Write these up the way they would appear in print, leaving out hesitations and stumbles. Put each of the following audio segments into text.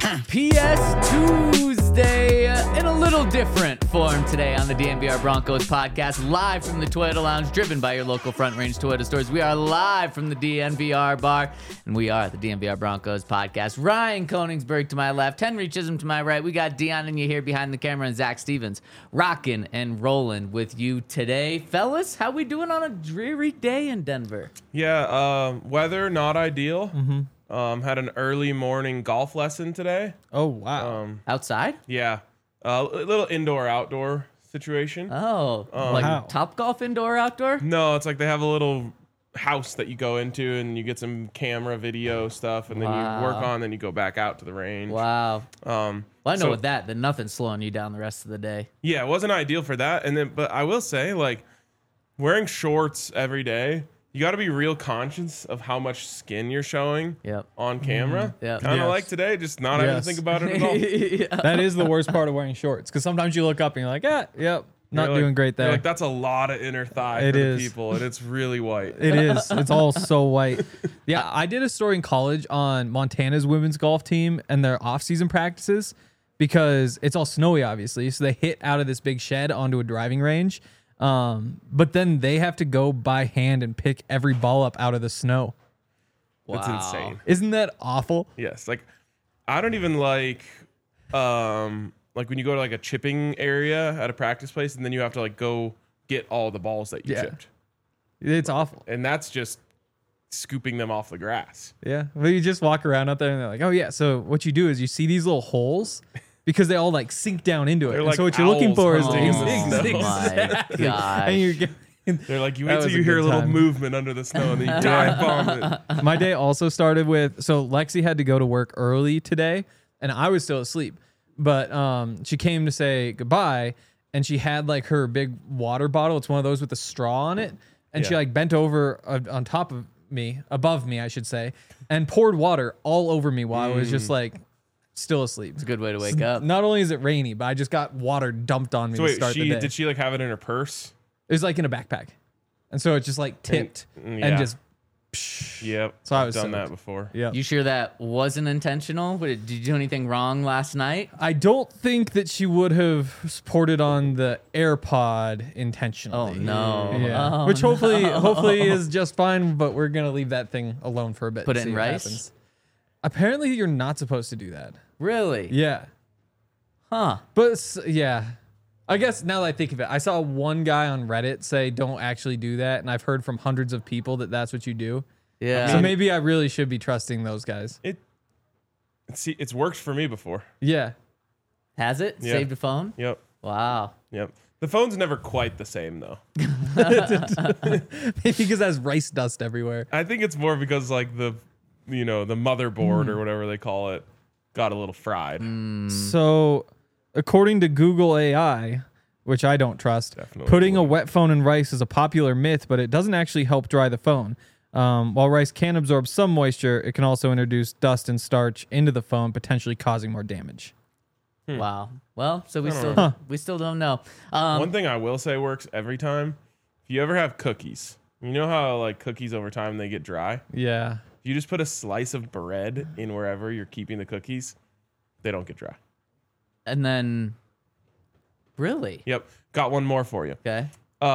PS Tuesday in a little different form today on the DNVR Broncos podcast, live from the Toyota Lounge, driven by your local Front Range Toyota stores. We are live from the DNVR bar, and we are the DNVR Broncos podcast. Ryan Koenigsberg to my left, Henry Chisholm to my right. We got Dion and you here behind the camera, and Zach Stevens rocking and rolling with you today. Fellas, how we doing on a dreary day in Denver? Yeah, weather not ideal. Had an early morning golf lesson today. Oh, wow. Outside? Yeah, a little indoor-outdoor situation. Oh, like Wow. Topgolf indoor outdoor? No, it's like they have a little house that you go into and you get some camera video stuff, and then you work on, then you go back out to the range. Wow. Well, I know So- with that, then nothing's slowing you down the rest of the day. Yeah, it wasn't ideal for that. And then, but I will say, like, wearing shorts every day, you got to be real conscious of how much skin you're showing Yep. on camera. Yep. Kind of Yes. like today, just not having to Yes. think about it at all. Yeah. That is the worst part of wearing shorts, because sometimes you look up and you're like, yep, not You're like- doing great you're there. like, that's a lot of inner thigh It for is. the people, and it's really white. It is. It's all so white. Yeah, I did a story in college on Montana's women's golf team and their off-season practices, because it's all snowy, obviously. So they hit out of this big shed onto a driving range. But then they have to go by hand and pick every ball up out of the snow. That's Wow. insane. Isn't that awful? Yes, like I don't even like when you go to like a chipping area at a practice place, and then you have to like go get all the balls that you Yeah. chipped, It's awful. and that's just scooping them off the grass. Yeah. But you just walk around out there and they're like, oh, yeah. So what you do is you see these little holes because they all like sink down into it. They're And like so what you're looking owls for is hunting these in the things. snow. Oh my gosh. And you're getting, They're like, you That wait was till a you hear a good little time. movement under the snow, and then you dive bomb it. my day also started with, so Lexi had to go to work early today and I was still asleep, but she came to say goodbye and she had like her big water bottle. It's one of those with a straw on it. And she Yeah. like bent over on top of me, above me, I should say, and poured water all over me while I was just like still asleep. It's a good way to wake up. Not only is it rainy, but I just got water dumped on me So to wait, start the day. did she like have it in her purse? It was like in a backpack. And so it just like tipped yeah. and just, Yep. So I I've was done soaked. that before. yeah. You sure that wasn't intentional? Did you do anything wrong last night? I don't think that she would have poured it on the AirPod intentionally. Oh, no. Yeah. Oh, Which hopefully is just fine, but we're gonna leave that thing alone for a bit. Put and it in see what rice? happens. Apparently, you're not supposed to do that. Really? Yeah, Huh. but yeah, I guess now that I think of it, I saw one guy on Reddit say don't actually do that, and I've heard from hundreds of people that that's what you do. Yeah. So maybe I really should be trusting those guys. It's worked for me before. Yeah, Has it? Yeah. Saved a phone? Yep. Wow. Yep. The phone's never quite the same though. maybe because that's rice dust everywhere. I think it's more because like the motherboard or whatever they call it got a little fried. So, according to Google AI, which I don't trust, Definitely putting a would. wet phone in rice is a popular myth, but it doesn't actually help dry the phone. While rice can absorb some moisture, it can also introduce dust and starch into the phone, potentially causing more damage. Wow. Well, so we still don't know. One thing I will say works every time. If you ever have cookies, you know how like cookies over time they get dry? Yeah. If you just put a slice of bread in wherever you're keeping the cookies, they don't get dry. And then, really? Yep. Got one more for you. Okay.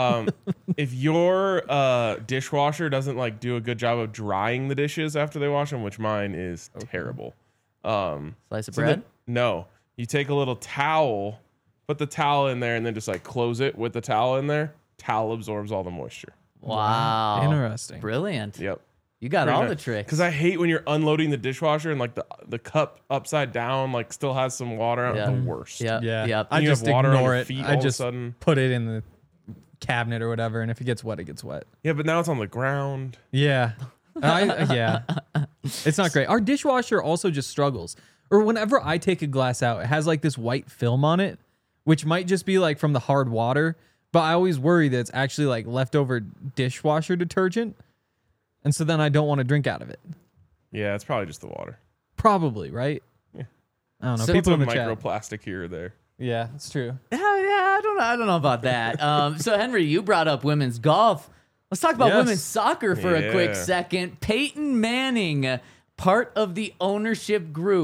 If your dishwasher doesn't like do a good job of drying the dishes after they wash them, which mine is terrible. Slice of So bread? no, you take a little towel, put the towel in there, and then just like close it with the towel in there. Towel absorbs all the moisture. Wow. Interesting. Brilliant. Yep. You got all the tricks. Because I hate when you're unloading the dishwasher and like the cup upside down like still has some water on it. Yeah. The worst. Yep. Yeah. Yep. I You just have water on ignore your it. feet I all of a just sudden. put it in the cabinet or whatever, and if it gets wet, it gets wet. Yeah, but now it's on the ground. Yeah. Yeah. It's not great. Our dishwasher also just struggles. Or whenever I take a glass out, it has like this white film on it, which might just be like from the hard water, but I always worry that it's actually like leftover dishwasher detergent. And so then I don't want to drink out of it. Yeah, it's probably just the water. Probably, right? Yeah. I don't know. So- People in Some the chat. microplastic here or there. Yeah, it's true. Yeah, I don't know about that. So Henry, you brought up women's golf. Let's talk about Yes. women's soccer for a quick Yeah. second. Peyton Manning, part of the ownership group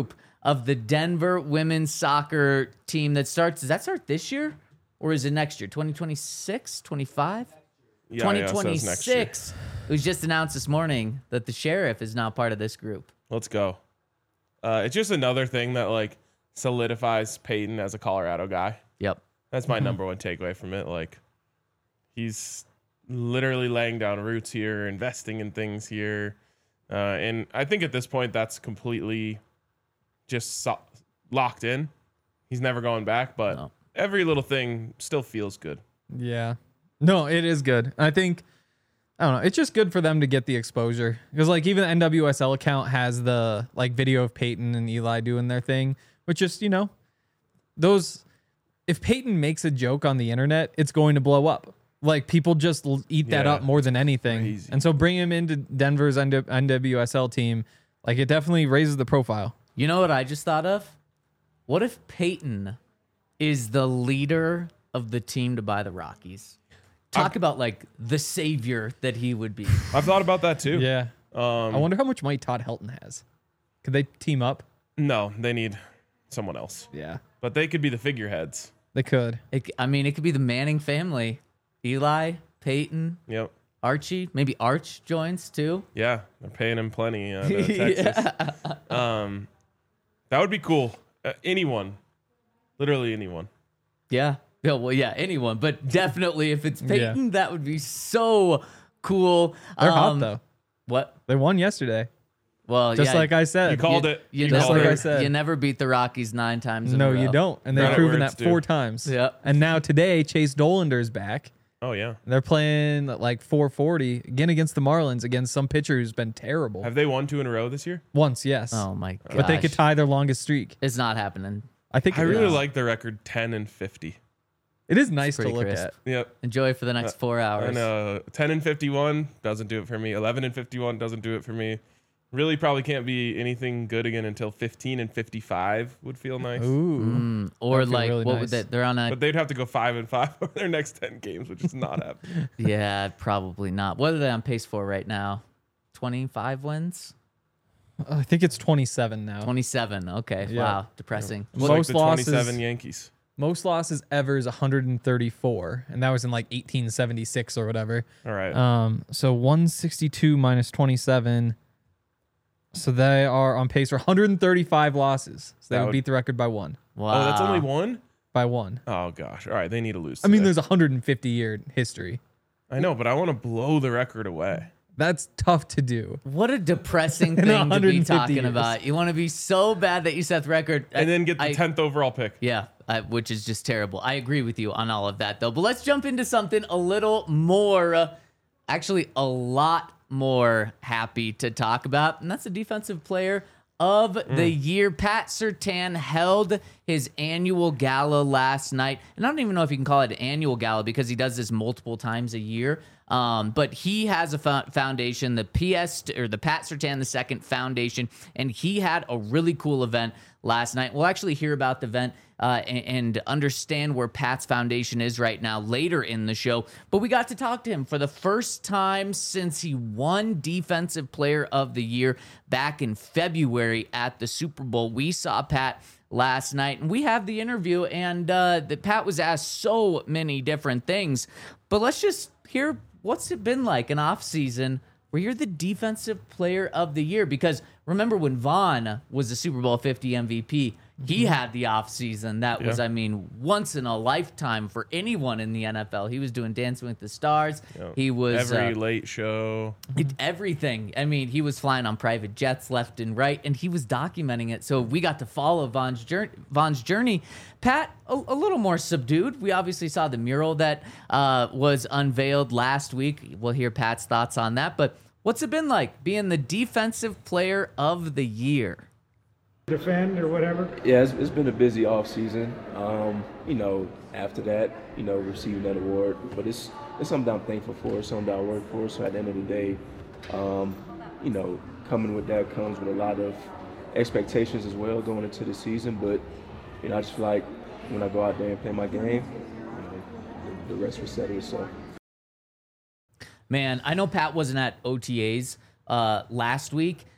of the Denver women's soccer team that starts. Does that start this year or is it next year? 2026, 25? Yeah, so it's next year. 2026. It was just announced this morning that the Sheriff is now part of this group. Let's go. It's just another thing that like solidifies Peyton as a Colorado guy. Yep. That's my number one takeaway from it. Like, he's literally laying down roots here, investing in things here. And I think at this point, that's completely just locked in. He's never going back, but every little thing still feels good. Yeah. No, it is good. I think, I don't know, it's just good for them to get the exposure. Because, like, even the NWSL account has the, like, video of Peyton and Eli doing their thing, which is, you know, those, if Peyton makes a joke on the internet, it's going to blow up. Like, people just eat that up more than anything. Crazy. And so bringing him into Denver's NWSL team, like, it definitely raises the profile. You know what I just thought of? What if Peyton is the leader of the team to buy the Rockies? Talk about, like, the savior that he would be. I've thought about that too. Yeah. I wonder how much money Todd Helton has. Could they team up? No, they need someone else. Yeah. But they could be the figureheads. They could. It could be the Manning family. Eli, Peyton, Yep. Archie. Maybe Arch joins, too. Yeah, they're paying him plenty to Texas. That would be cool. Anyone. Literally anyone. Yeah. Yeah, well, yeah, anyone. But definitely if it's Peyton, that would be so cool. They're hot, though. What? They won yesterday. Well, Just like I said. You called it. You Just never, like I said. You never beat the Rockies 9 times in a No, row. you don't. And they've Credit proven where that it's due. 4 times. Yep. And now today, Chase Dolander's back. Oh, yeah. They're playing like 440 again against the Marlins, against some pitcher who's been terrible. Have they won 2 in a row this year? Once, yes. Oh, my gosh. But they could tie their longest streak. It's not happening. I think I it really is. like the record 10-50. It is nice to pretty look crisp. at. Yep. Enjoy for the next 4 hours. And 10-51 doesn't do it for me. 11-51 doesn't do it for me. Really probably can't be anything good again until 15-55 would feel nice. Ooh. Or That'd feel like, really what nice. would that? They're on a. But they'd have to go 5-5 over their next 10 games, which is not happening. Yeah, probably not. What are they on pace for right now? 25 wins? I think it's 27 now. 27. Okay. Yeah. Wow. Depressing. It's Most like the losses- 27 Yankees. Most losses ever is 134, and that was in like 1876 or whatever. All right. So 162 minus 27. So they are on pace for 135 losses. So they That would would- beat the record by one. Wow. Oh, that's only one? By one. Oh, gosh. All right. They need to lose. I mean, today. there's a 150-year history. I know, but I want to blow the record away. That's tough to do. What a depressing In thing to be 150 talking years. about. You want to be so bad that you set the record. And then get the 10th overall pick. Yeah, which is just terrible. I agree with you on all of that, though. But let's jump into something a little more, actually a lot more happy to talk about, and that's the defensive player of the year. Pat Surtain held his annual gala last night, and I don't even know if you can call it an annual gala because he does this multiple times a year. But he has a foundation, the Pat Surtain II Foundation, and he had a really cool event last night. We'll actually hear about the event and understand where Pat's foundation is right now later in the show. But we got to talk to him for the first time since he won Defensive Player of the Year back in February at the Super Bowl. We saw Pat last night, and we have the interview, and Pat was asked so many different things. But let's just hear what's it been like an off season where you're the Defensive Player of the Year. Because remember when Vaughn was the Super Bowl 50 MVP, he had the off season that was, I mean, once in a lifetime for anyone in the NFL. He was doing Dancing with the Stars. Yeah. He was Every late show. everything. I mean, he was flying on private jets left and right, and he was documenting it. So we got to follow Vaughn's journey. Pat, a little more subdued. We obviously saw the mural that was unveiled last week. We'll hear Pat's thoughts on that. But what's it been like being the Defensive Player of the Year? Defend or whatever? Yeah, it's been a busy off season. After that, receiving that award, but it's something I'm thankful for, something that I work for. So at the end of the day, coming with that comes with a lot of expectations as well going into the season. But I just feel like when I go out there and play my game, the rest will settle itself. Man, I know Pat wasn't at OTAs last week.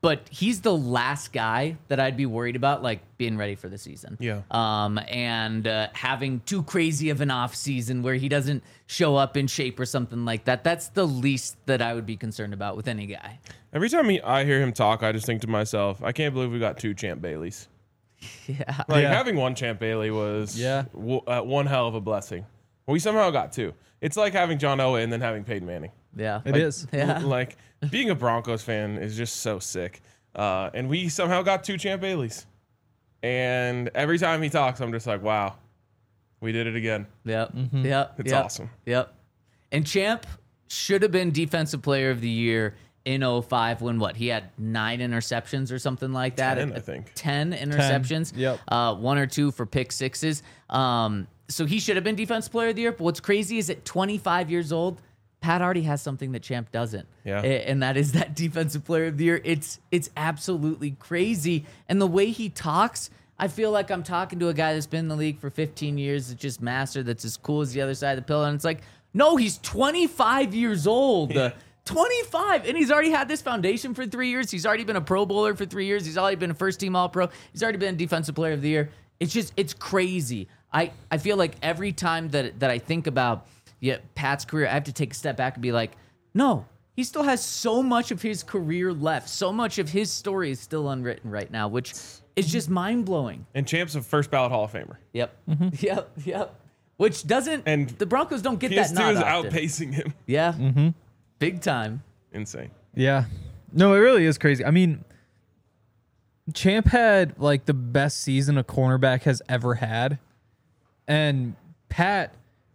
But he's the last guy that I'd be worried about, like, being ready for the season. Yeah. And having too crazy of an off season where he doesn't show up in shape or something like that. That's the least that I would be concerned about with any guy. Every time I hear him talk, I just think to myself, I can't believe we got 2 Champ Baileys. Yeah. Like, Yeah. having 1 Champ Bailey was Yeah. one hell of a blessing. We somehow got 2. It's like having John Elway and then having Peyton Manning. Yeah. It is. Yeah. Like, being a Broncos fan is just so sick. And we somehow got 2 Champ Baileys. And every time he talks, I'm just like, wow, we did it again. Yep. Yep. It's yep. awesome. Yep. And Champ should have been Defensive Player of the Year in 05 when what? He had 9 interceptions or something like that. 10, I think. 10 interceptions. Yep. 1 or 2 for pick sixes. So he should have been Defensive Player of the Year. But what's crazy is at 25 years old, Pat already has something that Champ doesn't. Yeah. And that is that Defensive Player of the Year. It's absolutely crazy. And the way he talks, I feel like I'm talking to a guy that's been in the league for 15 years, that's just master, that's as cool as the other side of the pillow. And it's like, no, he's 25 years old. 25. And he's already had this foundation for 3 years. He's already been a Pro Bowler for 3 years. He's already been a first-team All-Pro. He's already been Defensive Player of the Year. It's crazy. I feel like every time that I think about Pat's career, I have to take a step back and be like, no, he still has so much of his career left. So much of his story is still unwritten right now, which is just mind-blowing. And Champ's a first ballot Hall of Famer. Yep. Yep. Which doesn't, And the Broncos don't get that PS2 nod is often. outpacing him. Yeah. Big time. Insane. Yeah. No, it really is crazy. I mean, Champ had like the best season a cornerback has ever had. And Pat,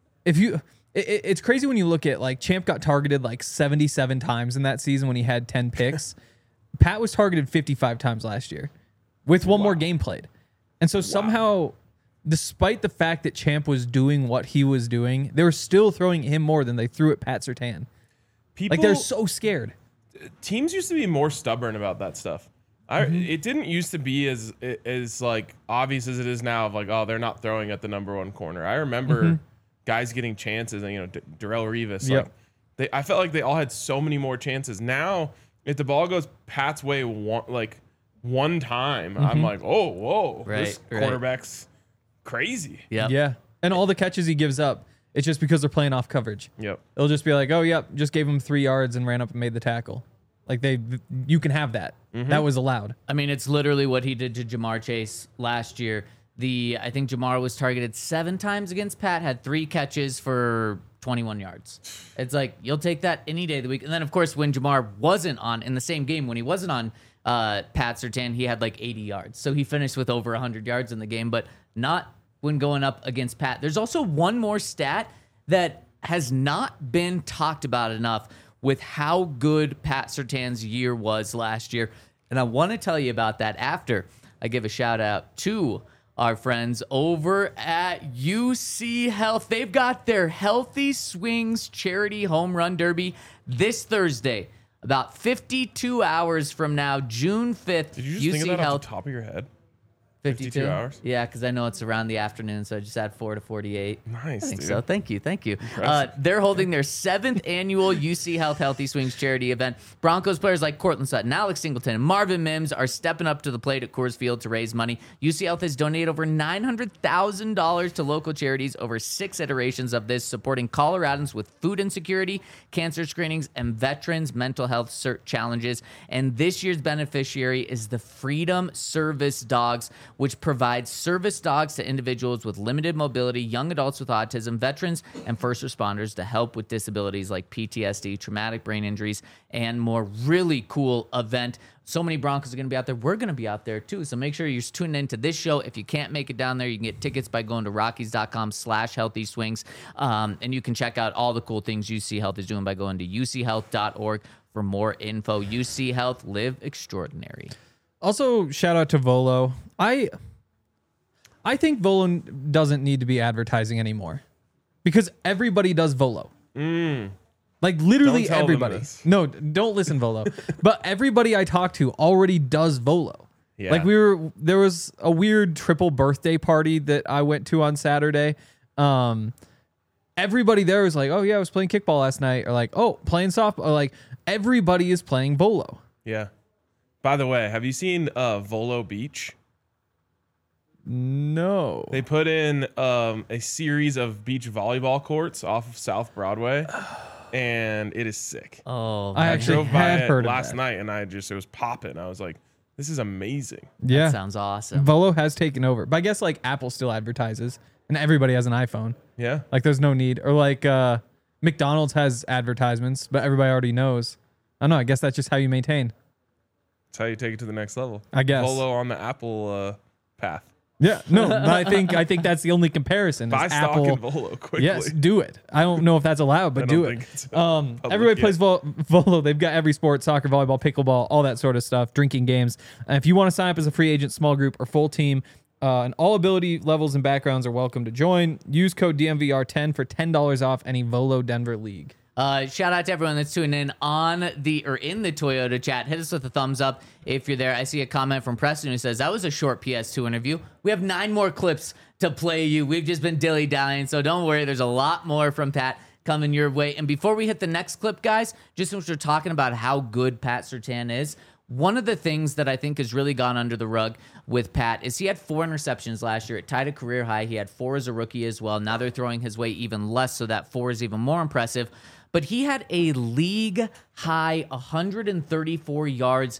it's crazy when you look at like Champ got targeted like 77 times in that season when he had 10 picks. Pat was targeted 55 times last year with one more game played. And so somehow, despite the fact that Champ was doing what he was doing, they were still throwing him more than they threw at Pat Surtain. People, Like they're so scared. teams used to be more stubborn about that stuff. It didn't used to be as like obvious as it is now of like, oh, they're not throwing at the number 1 corner. I remember guys getting chances and, Darrell Revis. Yep. Like, I felt like they all had so many more chances. Now, if the ball goes Pat's way one time, I'm like, oh, whoa, this Right. quarterback's crazy. Yep. Yeah. And all the catches he gives up, it's just because they're playing off coverage. Yep. It'll just be like, oh, yep, just gave him 3 yards and ran up and made the tackle. Like you can have that. That was allowed. I mean, it's literally what he did to Jamar Chase last year. I think Jamar was targeted 7 times against Pat, had 3 catches for 21 yards. It's like, you'll take that any day of the week. And then, of course, when Jamar wasn't on, in the same game, when he wasn't on Pat Surtain, he had like 80 yards. So he finished with over 100 yards in the game, but not when going up against Pat. There's also one more stat that has not been talked about enough with how good Pat Surtain's year was last year. And I want to tell you about that after I give a shout out to our friends over at UC Health. They've got their Healthy Swings Charity Home Run Derby this Thursday, about 52 hours from now, June 5th. Did you just UC think of that Health. off the top of your head? 52 hours? Yeah, because I know it's around the afternoon, so I just add 4 to 48. Nice, I think dude. so. Thank you. They're holding their 7th annual UC Health Healthy Swings charity event. Broncos players like Cortland Sutton, Alex Singleton, and Marvin Mims are stepping up to the plate at Coors Field to raise money. UC Health has donated over $900,000 to local charities over 6 iterations of this, supporting Coloradans with food insecurity, cancer screenings, and veterans' mental health challenges. And this year's beneficiary is the Freedom Service Dogs, which provides service dogs to individuals with limited mobility, young adults with autism, veterans, and first responders to help with disabilities like PTSD, traumatic brain injuries, and more. Really cool event. So many Broncos are going to be out there. We're going to be out there too. So make sure you're tuning into this show. If you can't make it down there, you can get tickets by going to rockies.com/healthyswings. And you can check out all the cool things UC Health is doing by going to uchealth.org for more info. UC Health, live extraordinary. Also, shout out to Volo. I think Volo doesn't need to be advertising anymore because everybody does Volo. Like literally Don't tell them everybody. this. No, don't listen, Volo. But everybody I talk to already does Volo. Yeah. Like there was a weird triple birthday party that I went to on Saturday. Everybody there was like, oh yeah, I was playing kickball last night, or like, oh, playing softball, or like everybody is playing Volo. Yeah. By the way, have you seen Volo Beach? No. They put in a series of beach volleyball courts off of South Broadway, and it is sick. Oh, I I actually drove by had it heard of last that. night, and it was popping. I was like, this is amazing. Yeah. that sounds awesome. Volo has taken over. But I guess like Apple still advertises and everybody has an iPhone. Yeah. Like there's no need. Or like McDonald's has advertisements, but everybody already knows. I don't know. I guess that's just how you maintain. That's how you take it to the next level. I guess. Volo on the Apple path. Yeah. No, but I think that's the only comparison. is Buy stock Apple. in Volo quickly. Yes, do it. I don't know if that's allowed, but I do don't it. think it's public Everybody yet. plays Volo. They've got every sport: soccer, volleyball, pickleball, all that sort of stuff. Drinking games. And if you want to sign up as a free agent, small group, or full team, and all ability levels and backgrounds are welcome to join. Use code DMVR10 for $10 off any Volo Denver league. Shout out to everyone that's tuning in in the Toyota chat. Hit us with a thumbs up if you're there. I see a comment from Preston who says that was a short PS2 interview. We have 9 more clips to play you. We've just been dilly-dallying, so don't worry. There's a lot more from Pat coming your way. And before we hit the next clip, guys, just since we're talking about how good Pat Surtain is, one of the things that I think has really gone under the rug with Pat is he had 4 interceptions last year. It tied a career high. He had 4 as a rookie as well. Now they're throwing his way even less, so that 4 is even more impressive. But he had a league high 134 yards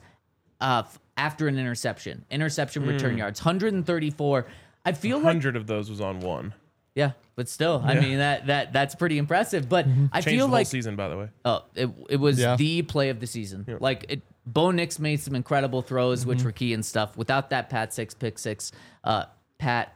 after an interception return yards, 134. I feel like 100 of those was on one. yeah, but still, I mean that's pretty impressive. But I Changed feel the whole like season, by the way. it was Yeah. the play of the season. Like Bo Nix made some incredible throws, which were key and stuff. Without that pick six, Pat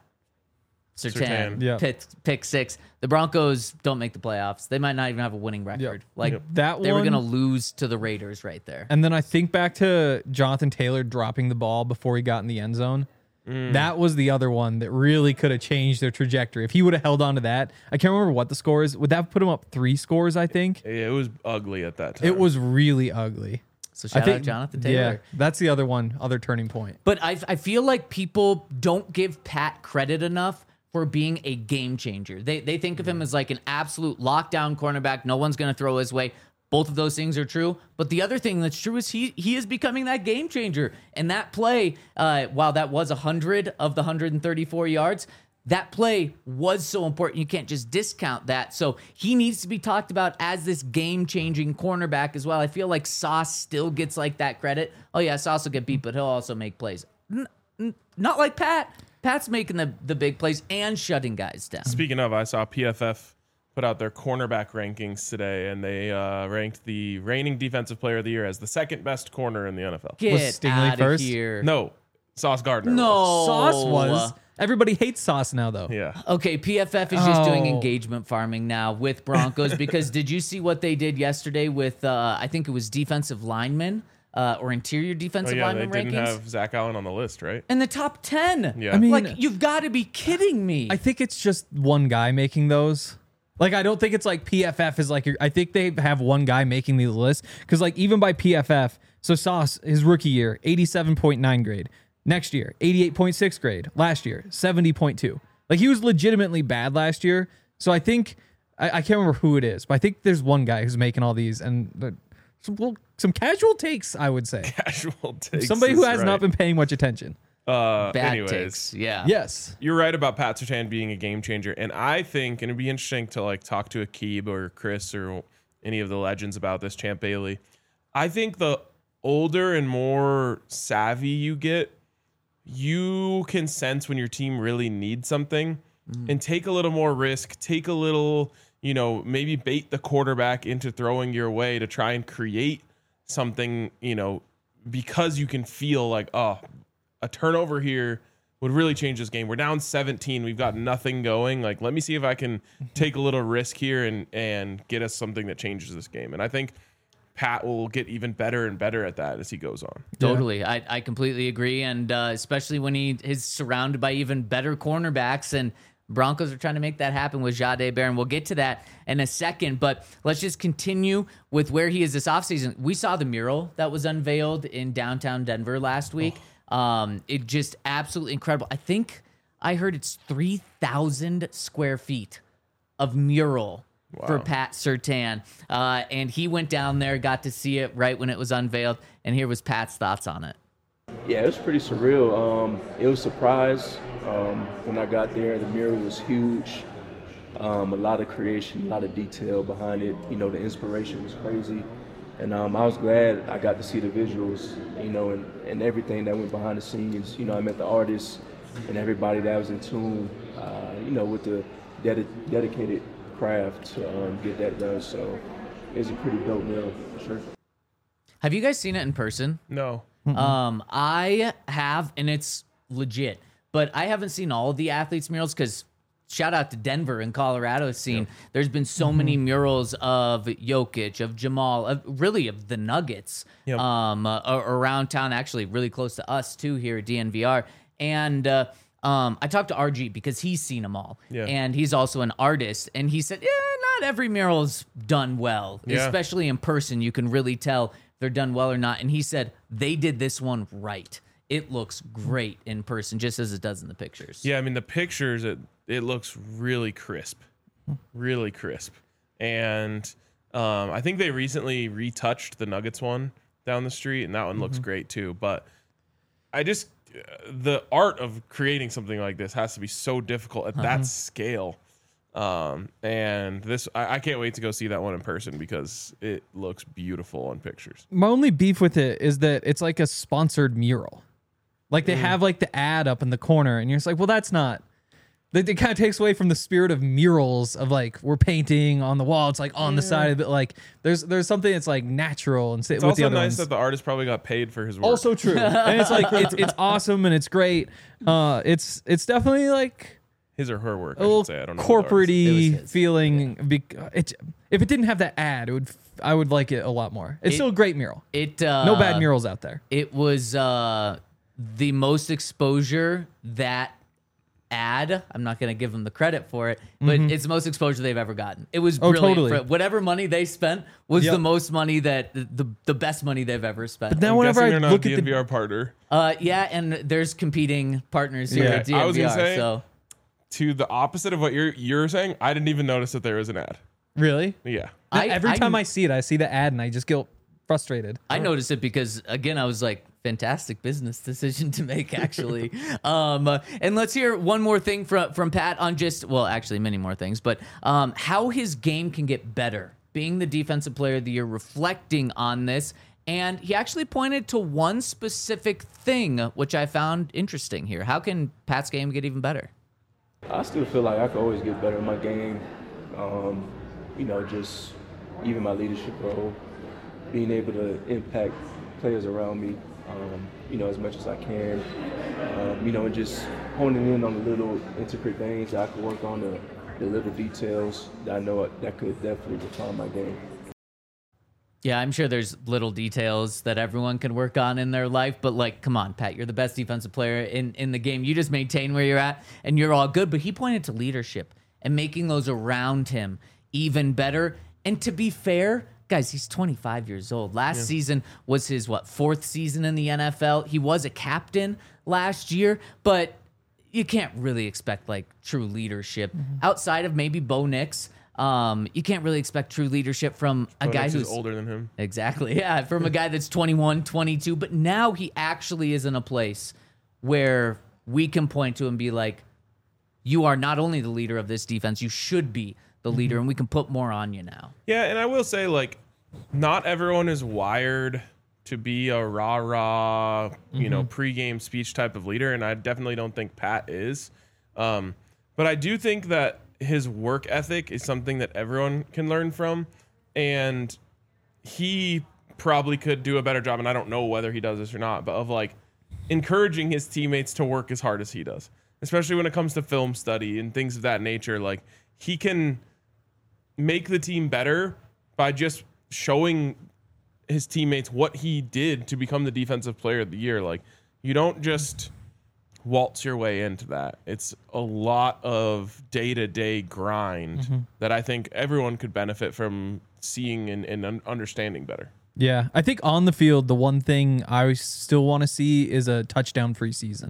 Surtain Yeah. pick six, the Broncos don't make the playoffs. They might not even have a winning record. Like That they were one- gonna lose to the Raiders right there. And then I think back to Jonathan Taylor dropping the ball before he got in the end zone. That was the other one that really could have changed their trajectory. If he would have held on to that, I can't remember what the score is. Would that have put him up 3 scores, I think? It was ugly at that time. It was really ugly. So shout out Jonathan Taylor. Yeah, that's the other one, other turning point. But I feel like people don't give Pat credit enough for being a game changer. They think of him as like an absolute lockdown cornerback. No one's going to throw his way. Both of those things are true. But the other thing that's true is he is becoming that game changer. And that play, while that was 100 of the 134 yards, that play was so important. You can't just discount that. So he needs to be talked about as this game-changing cornerback as well. I feel like Sauce still gets like that credit. Oh, yeah, Sauce will get beat, but he'll also make plays. Not like Pat. Pat's making the big plays and shutting guys down. Speaking of, I saw PFF put out their cornerback rankings today, and they ranked the reigning defensive player of the year as the second best corner in the NFL. Get Was Stingley out of first? here. No, Sauce Gardner. No. Sauce was. Everybody hates Sauce now, though. Yeah. Okay, PFF is just doing Oh. engagement farming now with Broncos because did you see what they did yesterday with, I think it was defensive linemen or interior Oh, defensive yeah, they lineman didn't rankings? have Zach Allen on the list, right? In the top 10. Yeah. I mean, Like, you've got to be kidding me. I think it's just one guy making those. Like, I don't think it's like PFF is like, I think they have one guy making the list. Because, like, even by PFF, so Sauce, his rookie year, 87.9 grade. Next year, 88.6 grade. Last year, 70.2. Like, he was legitimately bad last year. So I think, I can't remember who it is, but I think there's one guy who's making all these. And some casual takes, I would say. Casual takes. Somebody who is has right. not been paying much attention. Bad anyways, takes. Yeah. Yes. you're right about Pat Surtain being a game changer, and I think, and it'd be interesting to like talk to Akib or Chris or any of the legends about this, Champ Bailey. I think the older and more savvy you get, you can sense when your team really needs something and take a little more risk, take a little, maybe bait the quarterback into throwing your way to try and create something, because you can feel like, oh, a turnover here would really change this game. We're down 17. We've got nothing going. Like, let me see if I can take a little risk here and get us something that changes this game. And I think Pat will get even better and better at that as he goes on. Totally. I completely agree. And especially when he is surrounded by even better cornerbacks, and Broncos are trying to make that happen with Jahdae Barron. We'll get to that in a second, but let's just continue with where he is this offseason. We saw the mural that was unveiled in downtown Denver last week. It just absolutely incredible. I think I heard it's 3,000 square feet of mural for Pat Surtain. And he went down there, got to see it right when it was unveiled. And here was Pat's thoughts on it. Yeah, it was pretty surreal. It was a surprise when I got there. The mural was huge. A lot of creation, a lot of detail behind it. You know, the inspiration was crazy. And I was glad I got to see the visuals, you know, and everything that went behind the scenes. You know, I met the artists and everybody that was in tune, you know, with the dedicated craft to get that done. So it was a pretty dope mural, for sure. Have you guys seen it in person? No. I have, and it's legit. But I haven't seen all of the athletes' murals because shout out to Denver and Colorado scene. There's been so many murals of Jokic, of Jamal, of the Nuggets around town, actually really close to us too here at DNVR. And I talked to RG because he's seen them all. Yeah. And he's also an artist. And he said, not every mural's done well, especially in person. You can really tell if they're done well or not. And he said they did this one right. It looks great in person, just as it does in the pictures. Yeah, I mean, the pictures, it looks really crisp. Really crisp. And I think they recently retouched the Nuggets one down the street, and that one looks great too. But the art of creating something like this has to be so difficult at that scale. And this, I can't wait to go see that one in person because it looks beautiful on pictures. My only beef with it is that it's like a sponsored mural. Like they have like the ad up in the corner, and you're just like, well, that's not. It kind of takes away from the spirit of murals of like we're painting on the wall. It's like on the side of it. Like there's something that's like natural and It's with also the other nice ones. that the artist probably got paid for his work. Also true, and it's like it's awesome and it's great. It's definitely like his or her work, a I little should say. I don't know. Who the artist It was corporate-y his. feeling. If it didn't have that ad, I would like it a lot more. It's still a great mural. No bad murals out there. It was the most exposure that ad. I'm not going to give them the credit for it, but it's the most exposure they've ever gotten. It was brilliant. Totally. For whatever money they spent was Yep. the most money that the best money they've ever spent. But now I'm whenever guessing I they're not look a at the DNVR partner. Yeah, and there's competing partners here Yeah. at DNVR. I was gonna say- so To the opposite of what you're saying, I didn't even notice that there was an ad. really, Yeah. every time I see it, I see the ad and I just get frustrated. I noticed it because again, I was like, fantastic business decision to make, actually. And let's hear one more thing from Pat on actually many more things, but how his game can get better. Being the defensive player of the year, reflecting on this, and he actually pointed to one specific thing, which I found interesting here. How can Pat's game get even better? I still feel like I could always get better in my game. You know, just even my leadership role, being able to impact players around me, you know, as much as I can. You know, and just honing in on the little intricate things that I could work on, the little details that I know that could definitely define my game. Yeah, I'm sure there's little details that everyone can work on in their life, but like, come on, Pat, you're the best defensive player in the game. You just maintain where you're at and you're all good. But he pointed to leadership and making those around him even better. And to be fair, guys, he's 25 years old. Last season was his, fourth season in the NFL. He was a captain last year, but you can't really expect like true leadership outside of maybe Bo Nix. You can't really expect true leadership from a guy Nix who's is older than him. Exactly. Yeah. From a guy that's 21, 22, but now he actually is in a place where we can point to and be like, you are not only the leader of this defense, you should be the leader, and we can put more on you now. Yeah, and I will say, like, not everyone is wired to be a rah-rah, you know, pregame speech type of leader, and I definitely don't think Pat is. But I do think that his work ethic is something that everyone can learn from, and he probably could do a better job, and I don't know whether he does this or not, but of, like, encouraging his teammates to work as hard as he does, especially when it comes to film study and things of that nature. Like, he can make the team better by just showing his teammates what he did to become the defensive player of the year. Like, you don't just waltz your way into that. It's a lot of day-to-day grind that I think everyone could benefit from seeing and understanding better. Yeah, I think on the field, the one thing I still want to see is a touchdown-free season.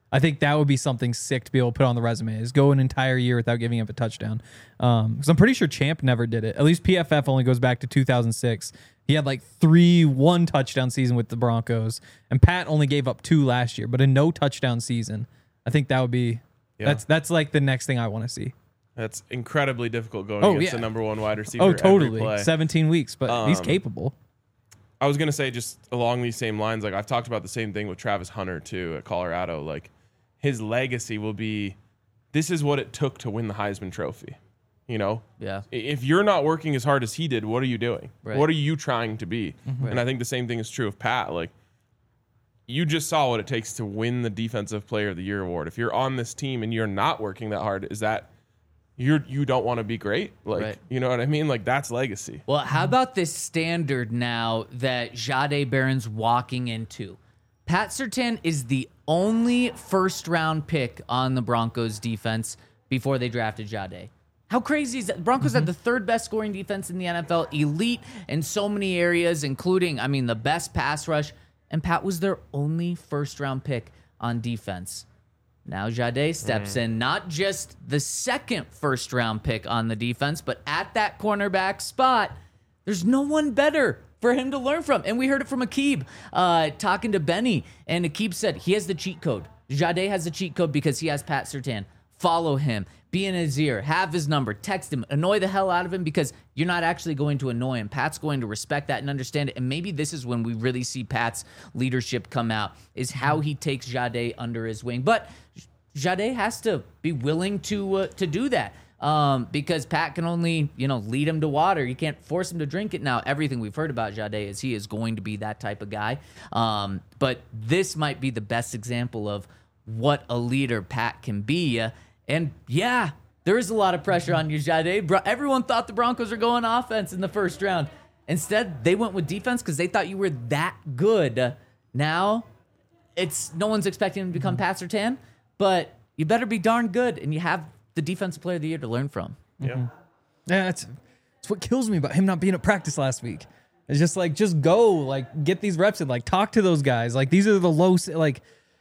I think that would be something sick to be able to put on the resume, is go an entire year without giving up a touchdown. Because I'm pretty sure Champ never did it. At least PFF only goes back to 2006. He had like 3 one-touchdown season with the Broncos, and Pat only gave up 2 last year, but a no-touchdown season. I think that would be that's like the next thing I want to see. That's incredibly difficult going against the number 1 wide receiver. Oh, totally. Every play. 17 weeks, but he's capable. I was gonna say, just along these same lines, like I've talked about the same thing with Travis Hunter too at Colorado. Like his legacy will be, this is what it took to win the Heisman Trophy. You know, if you're not working as hard as he did, what are you doing? Right. What are you trying to be? And I think the same thing is true of Pat. Like, you just saw what it takes to win the Defensive Player of the Year award. If you're on this team and you're not working that hard, is that you don't want to be great? Like, you know what I mean? Like, that's legacy. Well, how about this standard now that Jahdae Barron's walking into? Pat Surtain is the only first-round pick on the Broncos defense before they drafted Jahdae. How crazy is that? The Broncos had the 3rd best scoring defense in the NFL, elite in so many areas, including, the best pass rush, and Pat was their only first-round pick on defense. Now Jahdae steps in, not just the 2nd first-round pick on the defense, but at that cornerback spot, there's no one better for him to learn from. And we heard it from Aqib talking to Benny, and Aqib said he has the cheat code. Jahdae has the cheat code because he has Pat Surtain. Follow him, be in his ear, have his number, text him, annoy the hell out of him, because you're not actually going to annoy him. Pat's going to respect that and understand it. And maybe this is when we really see Pat's leadership come out, is how he takes Jahdae under his wing. But Jahdae has to be willing to do that. Because Pat can only, lead him to water. You can't force him to drink it. Now, everything we've heard about Jahdae is he is going to be that type of guy. But this might be the best example of what a leader Pat can be. And yeah, there is a lot of pressure on you, Jahdae. Everyone thought the Broncos were going offense in the first round. Instead, they went with defense because they thought you were that good. Now, no one's expecting him to become Pat Surtain, but you better be darn good, and you have the Defensive Player of the Year to learn from. Yeah. Yeah, it's what kills me about him not being at practice last week. It's just like, just go, like, get these reps in, like, talk to those guys. Like, these are the low, like,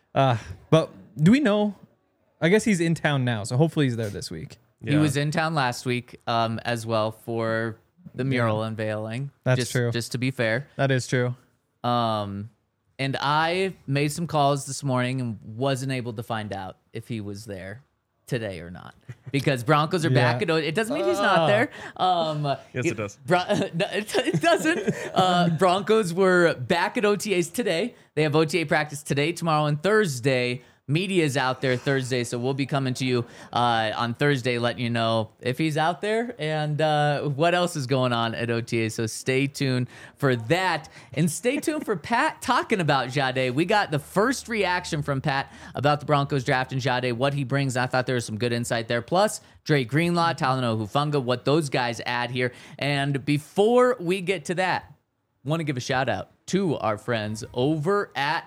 but do we know? I guess he's in town now, so hopefully he's there this week. Yeah. He was in town last week as well for the mural unveiling. That's true. Just to be fair. That is true. And I made some calls this morning and wasn't able to find out if he was there today or not, because Broncos are back at it doesn't mean he's not there. Yes, it does. No, it doesn't. Broncos were back at OTAs today. They have OTA practice today, tomorrow, and Thursday. Media's out there Thursday, so we'll be coming to you on Thursday, letting you know if he's out there and what else is going on at OTA. So stay tuned for that, and stay tuned for Pat talking about Jahdae. We got the first reaction from Pat about the Broncos drafting Jahdae, what he brings. I thought there was some good insight there. Plus, Dre Greenlaw, Talanoa Hufanga, what those guys add here. And before we get to that, want to give a shout out to our friends over at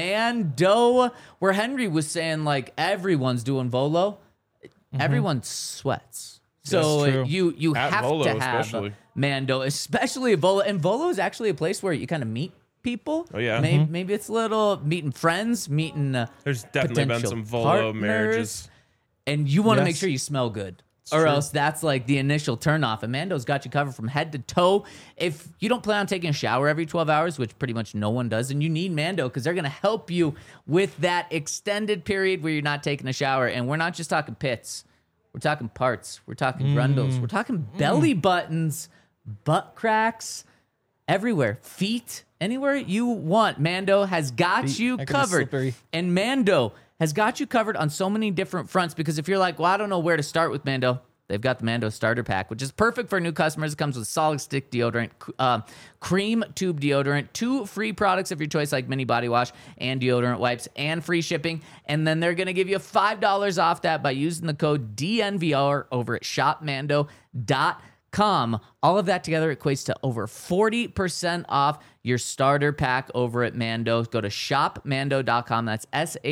Mando, where Henry was saying, like, everyone's doing Volo. Everyone sweats. So true. you At have Volo to have especially. Mando, especially at Volo. And Volo is actually a place where you kind of meet people. Oh, yeah. Maybe it's a little meeting friends, meeting There's definitely been potential some Volo partners. marriages. And you want to make Yes. sure you smell good. Or true. else that's like the initial turnoff. And Mando's got you covered from head to toe. If you don't plan on taking a shower every 12 hours, which pretty much no one does, and you need Mando because they're going to help you with that extended period where you're not taking a shower. And we're not just talking pits. We're talking parts. We're talking grundles. We're talking belly buttons, butt cracks, everywhere. Feet, anywhere you want. Mando has got you that can be covered. slippery. And Mando has got you covered on so many different fronts, because if you're like, well, I don't know where to start with Mando, they've got the Mando starter pack, which is perfect for new customers. It comes with solid stick deodorant, cream tube deodorant, 2 free products of your choice like mini body wash and deodorant wipes, and free shipping. And then they're going to give you $5 off that by using the code DNVR over at shopmando.com. All of that together equates to over 40% off your starter pack over at Mando. Go to shopmando.com. That's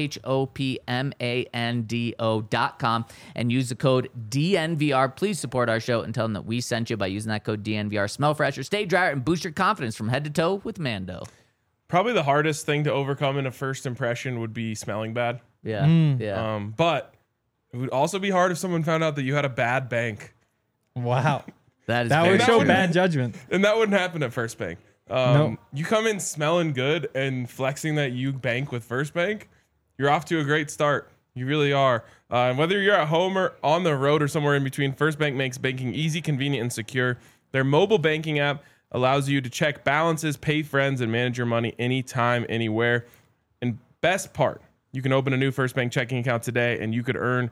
shopmando.com, and use the code DNVR. Please support our show and tell them that we sent you by using that code DNVR. Smell fresher, stay drier, and boost your confidence from head to toe with Mando. Probably the hardest thing to overcome in a first impression would be smelling bad. Yeah. Yeah. But it would also be hard if someone found out that you had a bad bank. Wow. That is That very would show true. bad judgment. And that wouldn't happen at First Bank. No. You come in smelling good and flexing that you bank with First Bank, you're off to a great start. You really are. Whether you're at home or on the road or somewhere in between, First Bank makes banking easy, convenient, and secure. Their mobile banking app allows you to check balances, pay friends, and manage your money anytime, anywhere. And best part, you can open a new First Bank checking account today and you could earn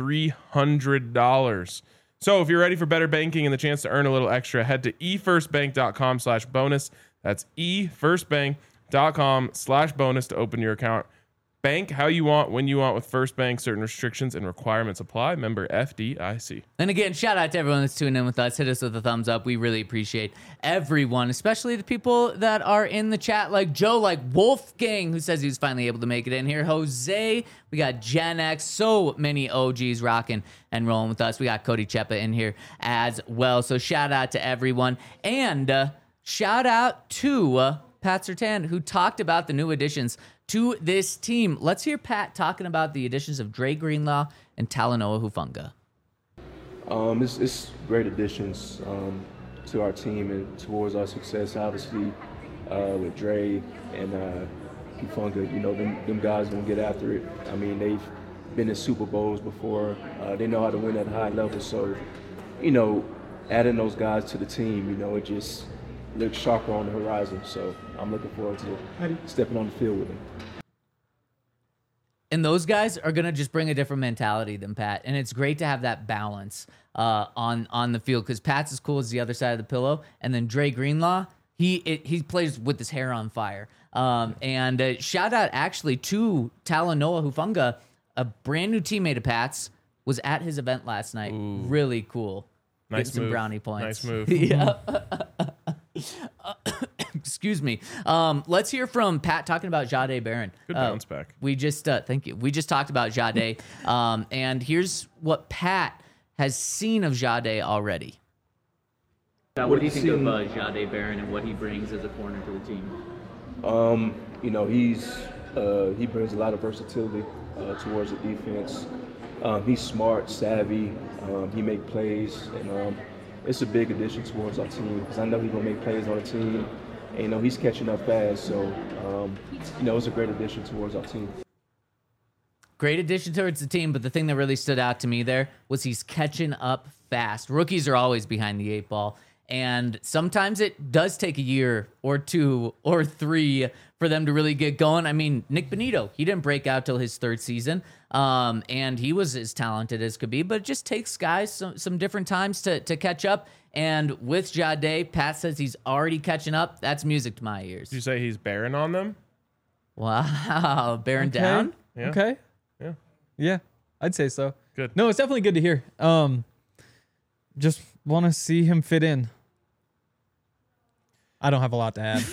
$300. So if you're ready for better banking and the chance to earn a little extra, head to efirstbank.com/bonus. That's efirstbank.com/bonus to open your account. Bank how you want, when you want with First Bank. Certain restrictions and requirements apply. Member FDIC. And again, shout out to everyone that's tuning in with us. Hit us with a thumbs up. We really appreciate everyone, especially the people that are in the chat, like Joe, like Wolfgang, who says he was finally able to make it in here. Jose, we got Gen X, so many OGs rocking and rolling with us. We got Cody Chepa in here as well. So shout out to everyone. And shout out to Pat Surtain, who talked about the new additions to this team. Let's hear Pat talking about the additions of Dre Greenlaw and Talanoa Hufanga. It's great additions to our team and towards our success, obviously, with Dre and Hufanga. You know, them guys gonna get after it. I mean, they've been in Super Bowls before. They know how to win at a high level. So, you know, adding those guys to the team, you know, it just looks sharper on the horizon. So I'm looking forward to stepping on the field with them. And those guys are going to just bring a different mentality than Pat. And it's great to have that balance on the field, because Pat's as cool as the other side of the pillow. And then Dre Greenlaw, he plays with his hair on fire. And shout out actually to Talanoa Hufanga, a brand new teammate of Pat's, was at his event last night. Ooh. Really cool. Nice Getting some move. brownie points. Nice move. Yeah. Excuse me. Let's hear from Pat talking about Jahdae Barron. Good bounce back. We just thank you. We just talked about Jahdae, and here's what Pat has seen of Jahdae already. What do you think of Jahdae Barron and what he brings as a corner to the team? You know, he brings a lot of versatility towards the defense. He's smart, savvy. He makes plays, and it's a big addition towards our team, because I know he's gonna make plays on the team. And, you know, he's catching up fast, so you know, it's a great addition towards our team. Great addition towards the team, but the thing that really stood out to me there was he's catching up fast. Rookies are always behind the 8 ball, and sometimes it does take a year or 2 or 3 for them to really get going. I mean, Nick Benito, he didn't break out till his 3rd season, and he was as talented as could be, but it just takes guys some different times to catch up. And with Jahdae, Pat says he's already catching up. That's music to my ears. Did you say he's barren on them? Wow, bearing Okay. down. Yeah. Okay. Yeah. Yeah, I'd say so. Good. No, it's definitely good to hear. Just want to see him fit in. I don't have a lot to add.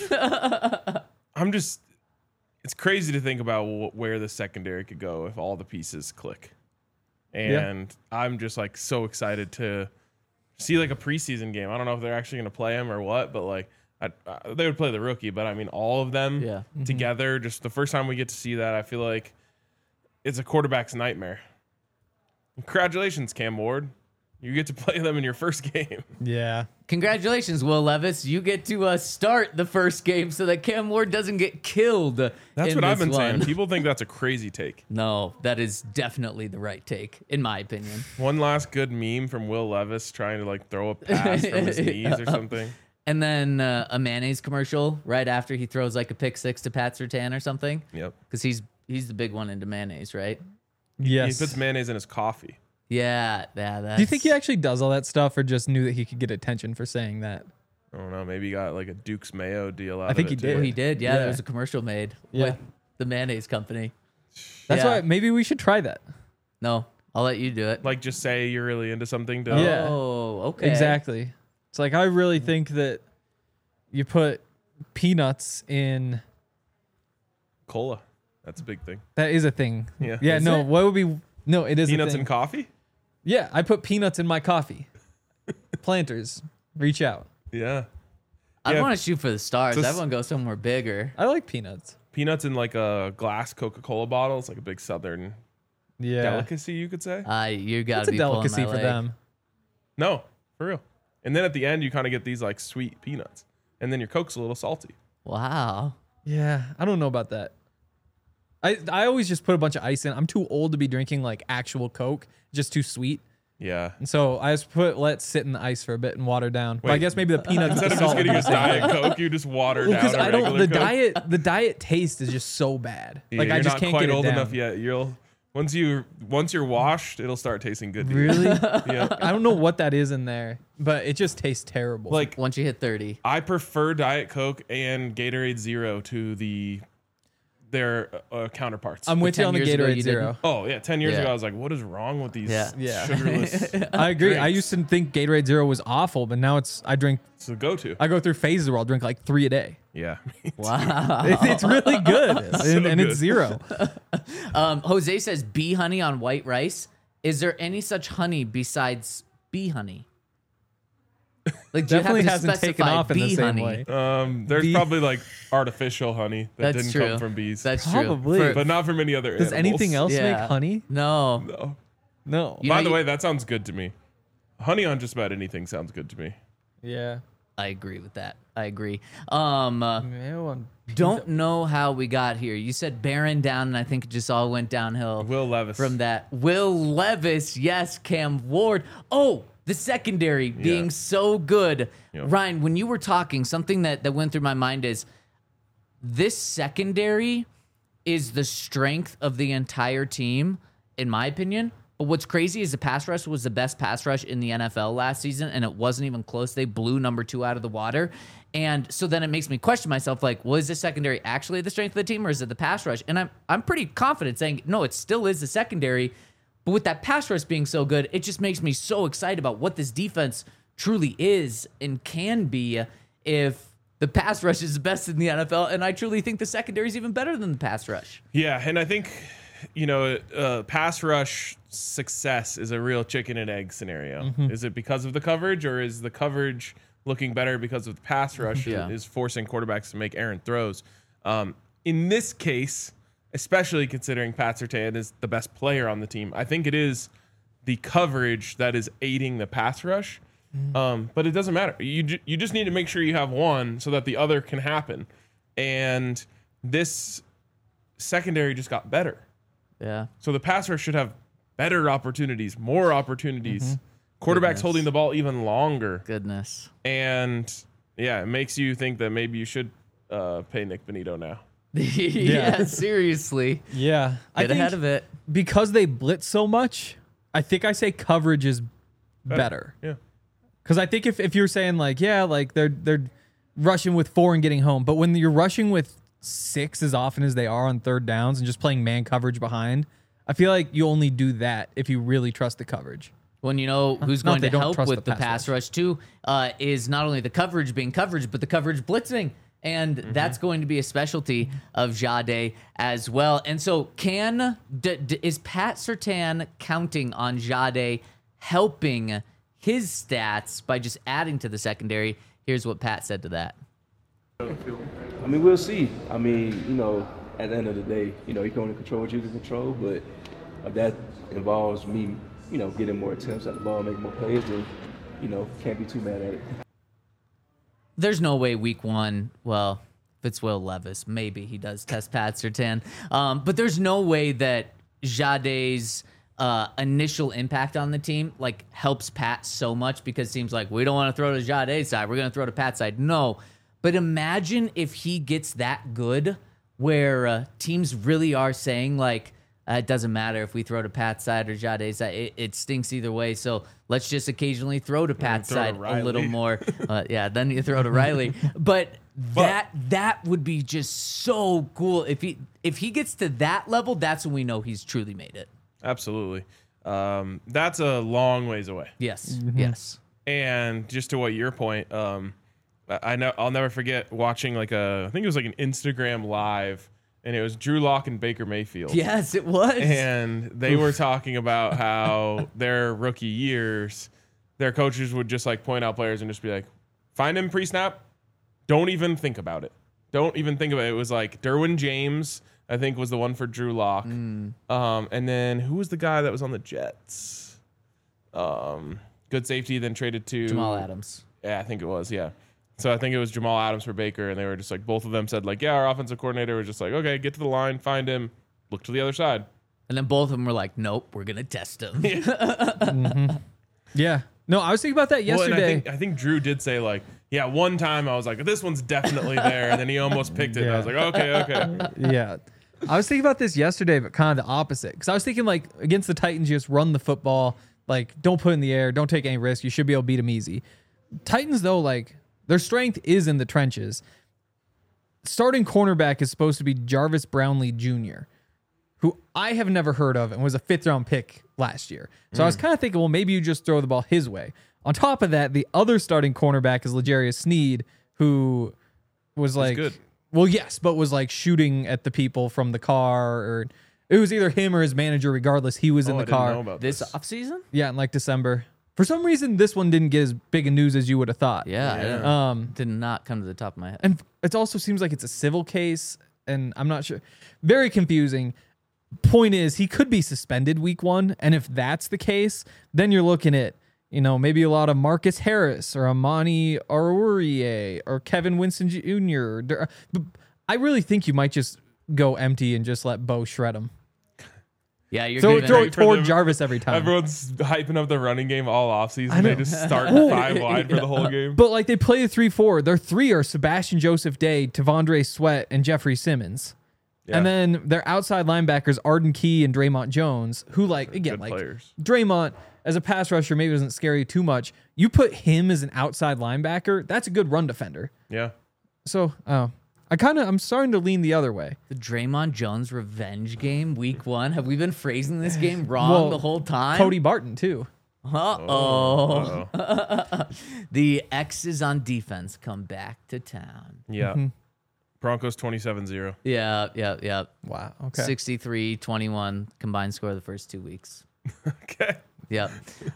It's crazy to think about where the secondary could go if all the pieces click. And I'm just like so excited to see like a preseason game. I don't know if they're actually going to play him or what, but like they would play the rookie, but I mean, all of them together, just the first time we get to see that, I feel like it's a quarterback's nightmare. Congratulations, Cam Ward. You get to play them in your first game. Yeah. Congratulations, Will Levis. You get to start the first game so that Cam Ward doesn't get killed. That's what I've been saying. People think that's a crazy take. No, that is definitely the right take, in my opinion. One last good meme from Will Levis trying to like throw a pass from his knees or something. And then a mayonnaise commercial right after he throws like a pick 6 to Pat Surtain or something. Yep. Because he's the big one into mayonnaise, right? Yes. He puts mayonnaise in his coffee. Yeah. That's... Do you think he actually does all that stuff, or just knew that he could get attention for saying that? I don't know. Maybe he got like a Duke's Mayo deal out I think of it he too. did. Oh, he did. Yeah, Yeah. there was a commercial made Yeah. with the mayonnaise company. That's Yeah. why maybe we should try that. No, I'll let you do it. Like just say you're really into something to Yeah. Oh, okay. Exactly. It's like, I really think that you put peanuts in. cola. That's a big thing. That is a thing. Yeah. Yeah. Is No. it? What would be? No, it is a Peanuts thing. and coffee? Yeah, I put peanuts in my coffee. Planters, reach out. Yeah. I Yeah. want to shoot for the stars. Just- Everyone go somewhere bigger. I like peanuts. peanuts in like a glass Coca-Cola bottle. It's like a big Southern delicacy, you could say. You got It's to a be delicacy pulling my for leg. them. No, for real. And then at the end, you kind of get these like sweet peanuts, and then your Coke's a little salty. Wow. Yeah, I don't know about that. I always just put a bunch of ice in. I'm too old to be drinking like actual Coke, just too sweet. Yeah. And so I just let sit in the ice for a bit and water down. But I Wait. guess maybe the peanuts Instead with of the just salt getting a would be the same. Diet Coke, you just water down Because a I don't. regular Coke. The diet taste is just so bad. Yeah, Like you're I just not can't quite get it old down. enough yet. Once you're washed, it'll start tasting good. To you. Really? Yeah. I don't know what that is in there, but it just tastes terrible. Like Once you hit 30. I prefer Diet Coke and Gatorade Zero to their counterparts. I'm with you 10 on the years ago, Gatorade you Zero. Oh yeah, 10 years Yeah. ago I was like, what is wrong with these Yeah. sugarless? I agree. I drinks? used to think Gatorade Zero was awful, but now I It's the go-to. go through phases where I'll drink like 3 a day. Yeah. Wow. It's really good, and good. it's zero. Jose says bee honey on white rice. Is there any such honey besides bee honey? Like, do Definitely you have to hasn't taken specify off in the bee same honey? way. There's Bee- probably like artificial honey that That's didn't true. come from bees. That's Probably. true. but not from any other Does animals. anything else Yeah. make honey? No. No. No. You By know, the you- way, that sounds good to me. Honey on just about anything sounds good to me. Yeah. I agree with that. I agree. Don't know how we got here. You said Barron down, and I think it just all went downhill. Will Levis. From that. Will Levis, yes, Cam Ward. Oh, the secondary being so good. Yeah. Ryan, when you were talking, something that went through my mind is this secondary is the strength of the entire team, in my opinion. But what's crazy is the pass rush was the best pass rush in the NFL last season, and it wasn't even close. They blew number 2 out of the water. And so then it makes me question myself, like, was the secondary actually the strength of the team, or is it the pass rush? And I'm pretty confident saying, no, it still is the secondary. But with that pass rush being so good, it just makes me so excited about what this defense truly is and can be if the pass rush is the best in the NFL. And I truly think the secondary is even better than the pass rush. Yeah, and I think, pass rush success is a real chicken and egg scenario. Mm-hmm. Is it because of the coverage, or is the coverage looking better because of the pass rush Yeah. is forcing quarterbacks to make errant throws? In this case, especially considering Pat Surtain is the best player on the team, I think it is the coverage that is aiding the pass rush. But it doesn't matter. You just need to make sure you have one so that the other can happen. And this secondary just got better. Yeah. So the pass rush should have better opportunities, more opportunities. Quarterbacks Goodness. holding the ball even longer. Goodness. And yeah, it makes you think that maybe you should pay Nick Benito now. Yeah, seriously. Yeah. Get ahead of it. Because they blitz so much, I think I say coverage is better. Yeah. Because I think if you're saying like, yeah, like they're rushing with 4 and getting home, but when you're rushing with 6 as often as they are on third downs and just playing man coverage behind, I feel like you only do that if you really trust the coverage. When you know who's Not going they to don't help trust with the the pass pass rush too is not only the coverage being coverage, but the coverage blitzing. And that's going to be a specialty of Jade as well. And so is Pat Surtain counting on Jade helping his stats by just adding to the secondary? Here's what Pat said to that. I mean, we'll see. I mean, at the end of the day, you can only control what you can control, but if that involves me, getting more attempts at the ball, making more plays, then, can't be too mad at it. There's no way week 1, well, if it's Will Levis, maybe he does test Pat Surtain. But there's no way that Jade's initial impact on the team helps Pat so much, because it seems like we don't want to throw to Jade's side. We're going to throw to Pat's side. No. But imagine if he gets that good where teams really are saying it doesn't matter if we throw to Pat's side or Jade's side. It stinks either way. So let's just occasionally throw to Pat's throw to side a little Riley. more. Then you throw to Riley. But that would be just so cool. If he gets to that level, that's when we know he's truly made it. Absolutely. That's a long ways away. Yes. Yes. And just to what your point, I know I'll never forget watching I think it was an Instagram live, and it was Drew Lock and Baker Mayfield. Yes, it was. And they were talking about how their rookie years, their coaches would just point out players and just be like, find him pre-snap, don't even think about it. Don't even think of it. It was like Derwin James, I think, was the one for Drew Lock. And then who was the guy that was on the Jets? Good safety, then traded to Jamal Adams. Yeah, I think it was. Yeah. So I think it was Jamal Adams for Baker, and they were just like, both of them said like, yeah, our offensive coordinator was just like, okay, get to the line, find him, look to the other side. And then both of them were like, nope, we're going to test him. Yeah. No, I was thinking about that Well, and yesterday. I think Drew did say like, yeah, one time I was like, this one's definitely there, and then he almost picked it. And I was like, okay. Yeah. I was thinking about this yesterday, but kind of the opposite. Because I was thinking, like, against the Titans, you just run the football. Like, don't put it in the air. Don't take any risk. You should be able to beat them easy. Titans, though, like, their strength is in the trenches. Starting cornerback is supposed to be Jarvis Brownlee Jr., who I have never heard of and was a 5th-round pick last year. So I was kind of thinking, well, maybe you just throw the ball his way. On top of that, the other starting cornerback is L'Jarius Sneed, who was like... good. Well, yes, but was like shooting at the people from the car, or it was either him or his manager. Regardless, he was in the I didn't car. know about This this. offseason? Yeah, in like December. For some reason, this one didn't get as big a news as you would have thought. Yeah. I didn't- did not come to the top of my head. And it also seems like it's a civil case, and I'm not sure. Very confusing. Point is, he could be suspended week 1, and if that's the case, then you're looking at, maybe a lot of Marcus Harris or Amani Aurier or Kevin Winston Jr. But I really think you might just go empty and just let Bo shred him. Yeah, you're Throw giving it toward Jarvis every time. Everyone's hyping up the running game all offseason. know. They just start 5 wide for the whole game. But like they play the 3-4. Their 3 are Sebastian Joseph Day, Tavondre Sweat, and Jeffrey Simmons. Yeah. And then their outside linebackers, Arden Key and Draymond Jones, who again, Good players. Draymond as a pass rusher maybe doesn't scare you too much. You put him as an outside linebacker, that's a good run defender. Yeah. So, I'm starting to lean the other way. the Draymond Jones revenge game week 1. Have we been phrasing this game wrong Well, the whole time? Cody Barton too. Uh-oh. Uh-oh. The X's on defense come back to town. Yeah. Broncos 27-0. Yeah. Wow. Okay. 63-21 combined score of the first 2 weeks. Okay. Yep.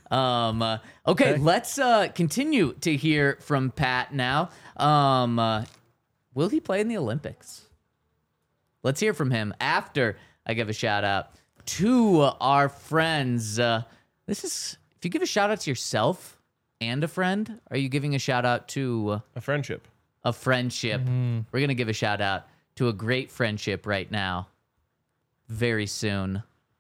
Okay, let's continue to hear from Pat now. Will he play in the Olympics? Let's hear from him after I give a shout out to our friends. This is, if you give a shout out to yourself and a friend, are you giving a shout out to A friendship. a friendship? We're going to give a shout out to a great friendship right now, very soon.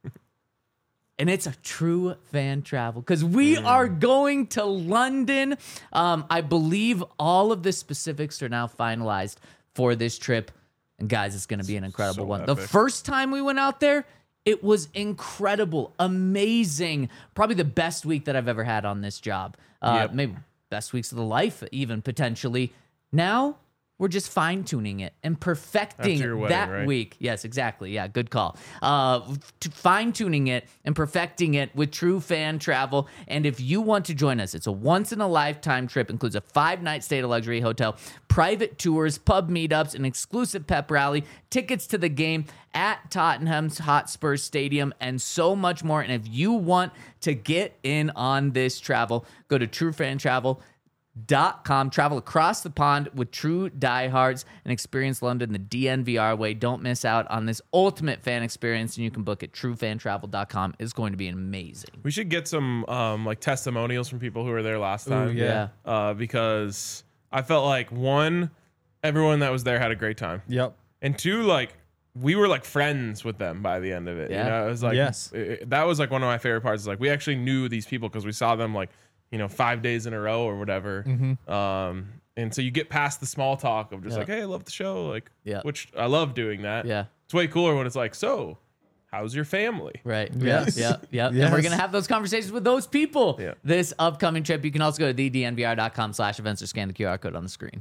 And it's a True Fan Travel because we are going to London. I believe all of the specifics are now finalized for this trip. And guys, it's going to be an incredible So one. epic. The first time we went out there, it was incredible, amazing. Probably the best week that I've ever had on this job. Yep. Maybe best weeks of the life, even potentially. Now we're just fine tuning it and perfecting After your wedding, that right? week. Yes, exactly. Yeah, good call. Fine tuning it and perfecting it with True Fan Travel. And if you want to join us, it's a once in a lifetime trip. Includes a 5-night stay at a luxury hotel, private tours, pub meetups, an exclusive pep rally, tickets to the game at Tottenham's Hotspur Stadium, and so much more. And if you want to get in on this travel, go to TrueFanTravel.com. Travel across the pond with true diehards and experience London the DNVR way. Don't miss out on this ultimate fan experience, and you can book at truefantravel.com. It's going to be amazing. We should get some like testimonials from people who were there last time. yeah. Because I felt like 1, everyone that was there had a great time. Yep. And 2, like we were like friends with them by the end of it. Yeah. You know, it was like Yes. that was like one of my favorite parts. Is like we actually knew these people because we saw them like 5 days in a row or whatever. And so you get past the small talk of just like, hey, I love the show, like, Yeah. which I love doing that. Yeah. It's way cooler when it's like, so how's your family? Right. Yes. Yeah. And Yes. we're going to have those conversations with those people Yeah. this upcoming trip. You can also go to thednvr.com/events or scan the QR code on the screen.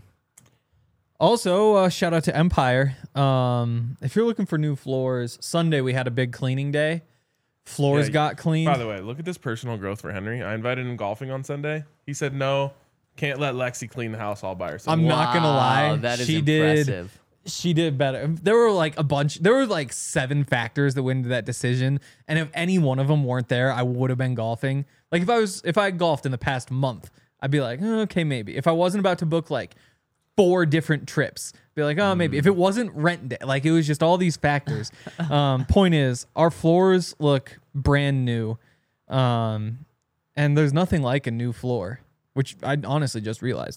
Also, shout out to Empire. If you're looking for new floors, Sunday we had a big cleaning day. Floors Yeah, got cleaned. By the way, look at this personal growth for Henry. I invited him golfing on Sunday. He said no, can't let Lexi clean the house all by herself. I'm not gonna lie. Wow, that is she impressive. She did better. There were like a bunch. There were like 7 factors that went into that decision, and if any one of them weren't there, I would have been golfing. Like if I had golfed in the past month, I'd be like, okay, maybe. If I wasn't about to book like 4 different trips. Be like, oh, maybe if it wasn't rent day, like it was just all these factors. Point is, our floors look brand new, and there's nothing like a new floor, which I honestly just realized.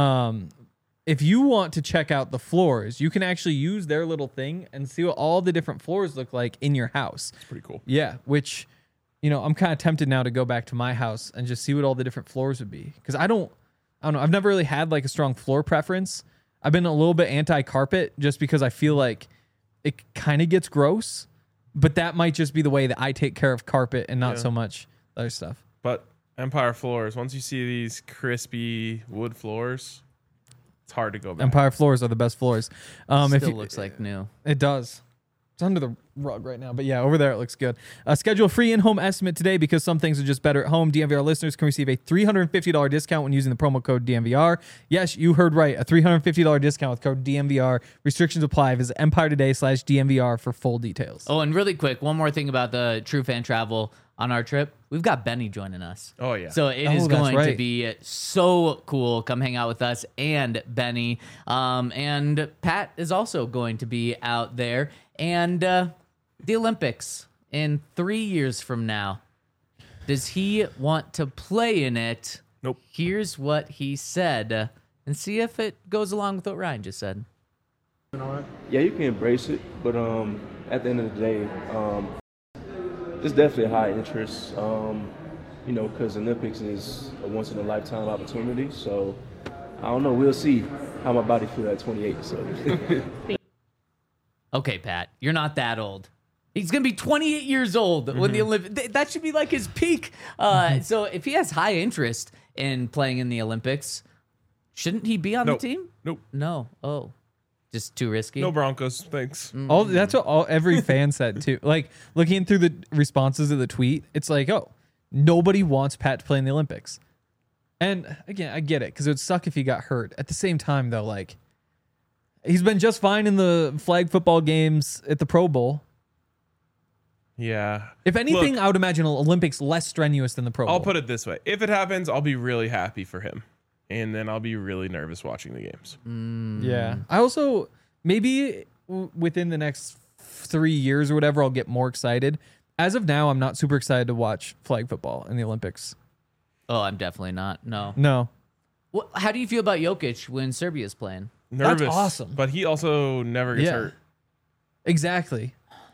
If you want to check out the floors, you can actually use their little thing and see what all the different floors look like in your house. It's pretty cool. Yeah, which, I'm kind of tempted now to go back to my house and just see what all the different floors would be. Because I don't know. I've never really had like a strong floor preference. I've been a little bit anti-carpet just because I feel like it kind of gets gross. But that might just be the way that I take care of carpet and not so much other stuff. But Empire floors, once you see these crispy wood floors, it's hard to go back. Empire floors are the best floors. Still looks like new. It does. It's under the rug right now, but yeah, over there it looks good. Schedule a free in-home estimate today because some things are just better at home. DNVR listeners can receive a $350 discount when using the promo code DNVR. Yes, you heard right. A $350 discount with code DNVR. Restrictions apply. Visit EmpireToday/DNVR for full details. Oh, and really quick, one more thing about the True Fan Travel on our trip. We've got Benny joining us. Oh, yeah. So it is going to be so cool. Come hang out with us and Benny. And Pat is also going to be out there. And the Olympics in 3 years from now. Does he want to play in it? Nope. Here's what he said. And see if it goes along with what Ryan just said. Yeah, you can embrace it, but at the end of the day, it's definitely a high interest, because Olympics is a once-in-a-lifetime opportunity. So, I don't know. We'll see how my body feels at 28. So. Okay, Pat, you're not that old. He's going to be 28 years old when the Olympics. That should be like his peak. So if he has high interest in playing in the Olympics, shouldn't he be on the team? Nope. No. Oh, just too risky. No Broncos, thanks. That's what every fan said too. Like looking through the responses of the tweet, it's like, oh, nobody wants Pat to play in the Olympics. And again, I get it because it would suck if he got hurt. At the same time, though, like he's been just fine in the flag football games at the Pro Bowl. Yeah. If anything, I would imagine Olympics less strenuous than the Pro Bowl. I'll put it this way. If it happens, I'll be really happy for him. And then I'll be really nervous watching the games. Yeah. I also, maybe within the next 3 years or whatever, I'll get more excited. As of now, I'm not super excited to watch flag football in the Olympics. Oh, I'm definitely not. No. Well, how do you feel about Jokic when Serbia's playing? Nervous. That's awesome. But he also never gets hurt. Exactly.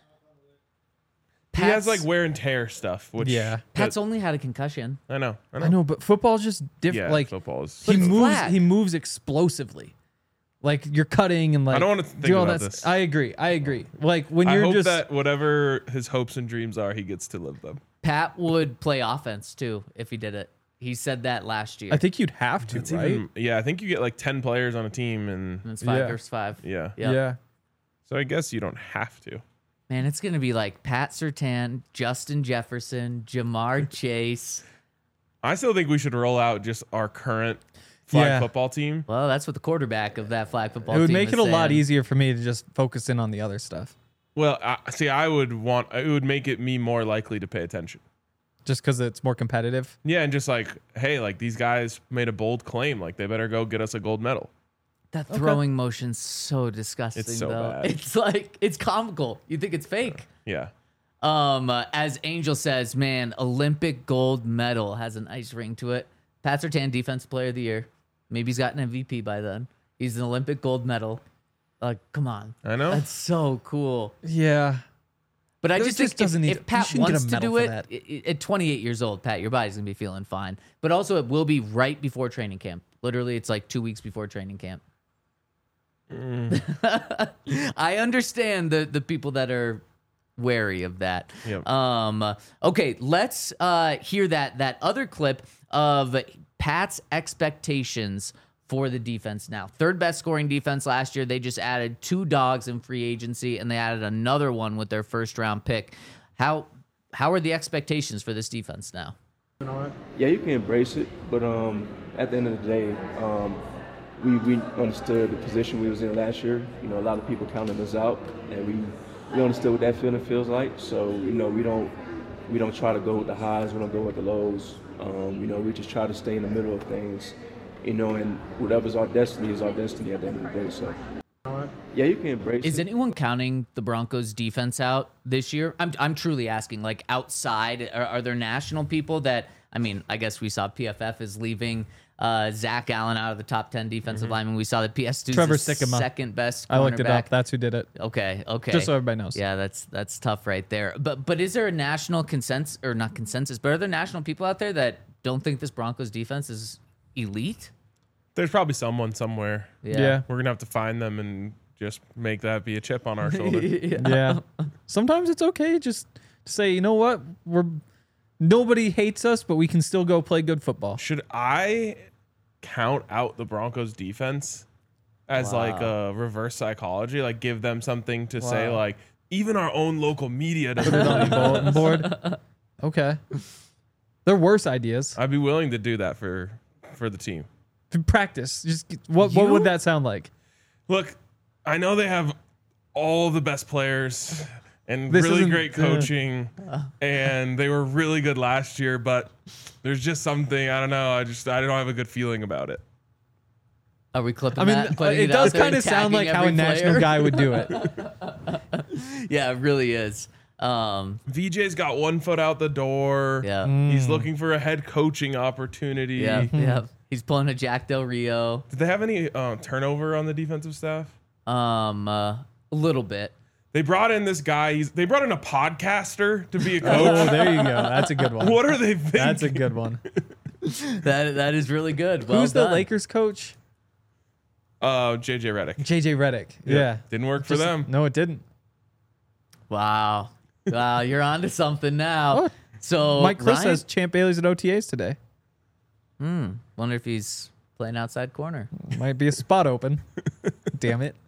He has like wear and tear stuff, which Pat's only had a concussion. I know, but football's just different. Yeah, like football is. he moves explosively. Like you're cutting and like I don't want to think do all about that. this. I agree. Like when I you're hope just that whatever his hopes and dreams are, he gets to live them. Pat would play offense too if he did it. He said that last year. I think you'd have to, It's right? yeah, I think you get like 10 players on a team, and It's 5 versus 5. yeah. Yeah. So I guess you don't have to. Man, it's going to be like Pat Surtain, Justin Jefferson, Jamar Chase. I still think we should roll out just our current flag football team. Well, that's what the quarterback of that flag football It team would make is it a lot saying. easier for me to just focus in on the other stuff. Well, I would make it me more likely to pay attention. Just because it's more competitive. Yeah, and just like, hey, like these guys made a bold claim, like they better go get us a gold medal. That throwing motion's so disgusting, It's so though. bad. It's like, it's comical. You think it's fake. Yeah. As Angel says, man, Olympic gold medal has a nice ring to it. Pat Surtain, Defensive Player of the Year. Maybe he's got an MVP by then. He's an Olympic gold medal. Like, come on. I know. That's so cool. Yeah. But I There just just think doesn't need- if Pat you shouldn't get wants a to medal do for it, at 28 years old, Pat, your body's going to be feeling fine. But also, it will be right before training camp. Literally, it's like 2 weeks before training camp. I understand the people that are wary of that. Yep. Okay, let's hear that other clip of Pat's expectations for the defense now. Third best scoring defense last year. They just added 2 dogs in free agency, and they added another one with their first round pick. How are the expectations for this defense now? Yeah, you can embrace it, but at the end of the day, we understood the position we was in last year. You know, a lot of people counted us out, and we understood what that feeling feels like. So, you know, we don't try to go with the highs, we don't go with the lows. You know, we just try to stay in the middle of things and whatever's our destiny is our destiny at the end of the day. So, yeah, you can embrace Is it. anyone counting the Broncos defense out this year? I'm truly asking, like, outside, are there national people that, I mean, I guess we saw PFF is leaving Zach Allen out of the top 10 defensive linemen. We saw that PS2 Trevor is the Sikkema. second best cornerback. I looked it up. That's who did it. Okay. Just so everybody knows. Yeah, that's tough right there. But is there a national consensus, or not consensus, but are there national people out there that don't think this Broncos defense is elite? There's probably someone somewhere. Yeah. We're gonna have to find them and just make that be a chip on our shoulder. Yeah. Sometimes it's okay just to say, you know what? Nobody hates us, but we can still go play good football. Should I count out the Broncos defense as like a reverse psychology? Like give them something to say, like, even our own local media doesn't believe Bulletin board. Okay. There are worse ideas. I'd be willing to do that for the team. Practice. Just what would that sound like? Look, I know they have all the best players and This really isn't- great coaching, and they were really good last year, but there's just something, I don't know, I don't have a good feeling about it. Are we clipping I mean, that and putting it it out does there kind and of sound like tagging how a every national player? guy would do it. Yeah, it really is. VJ's got one foot out the door. Yeah. He's looking for a head coaching opportunity. Yeah, yeah. He's pulling a Jack Del Rio. Did they have any turnover on the defensive staff? A little bit. They brought in this guy. They brought in a podcaster to be a Oh, coach. there you go. That's a good one. What are they thinking? That's a good one. That is really good. Well Who's the done. Lakers coach? JJ Redick. JJ Redick. Yeah. Didn't work for them. No, it didn't. Wow. Wow, you're onto something now. Oh, So Mike Cliff Ryan, says Champ Bailey's at OTAs today. wonder if he's playing outside corner. Might be a spot open. Damn it.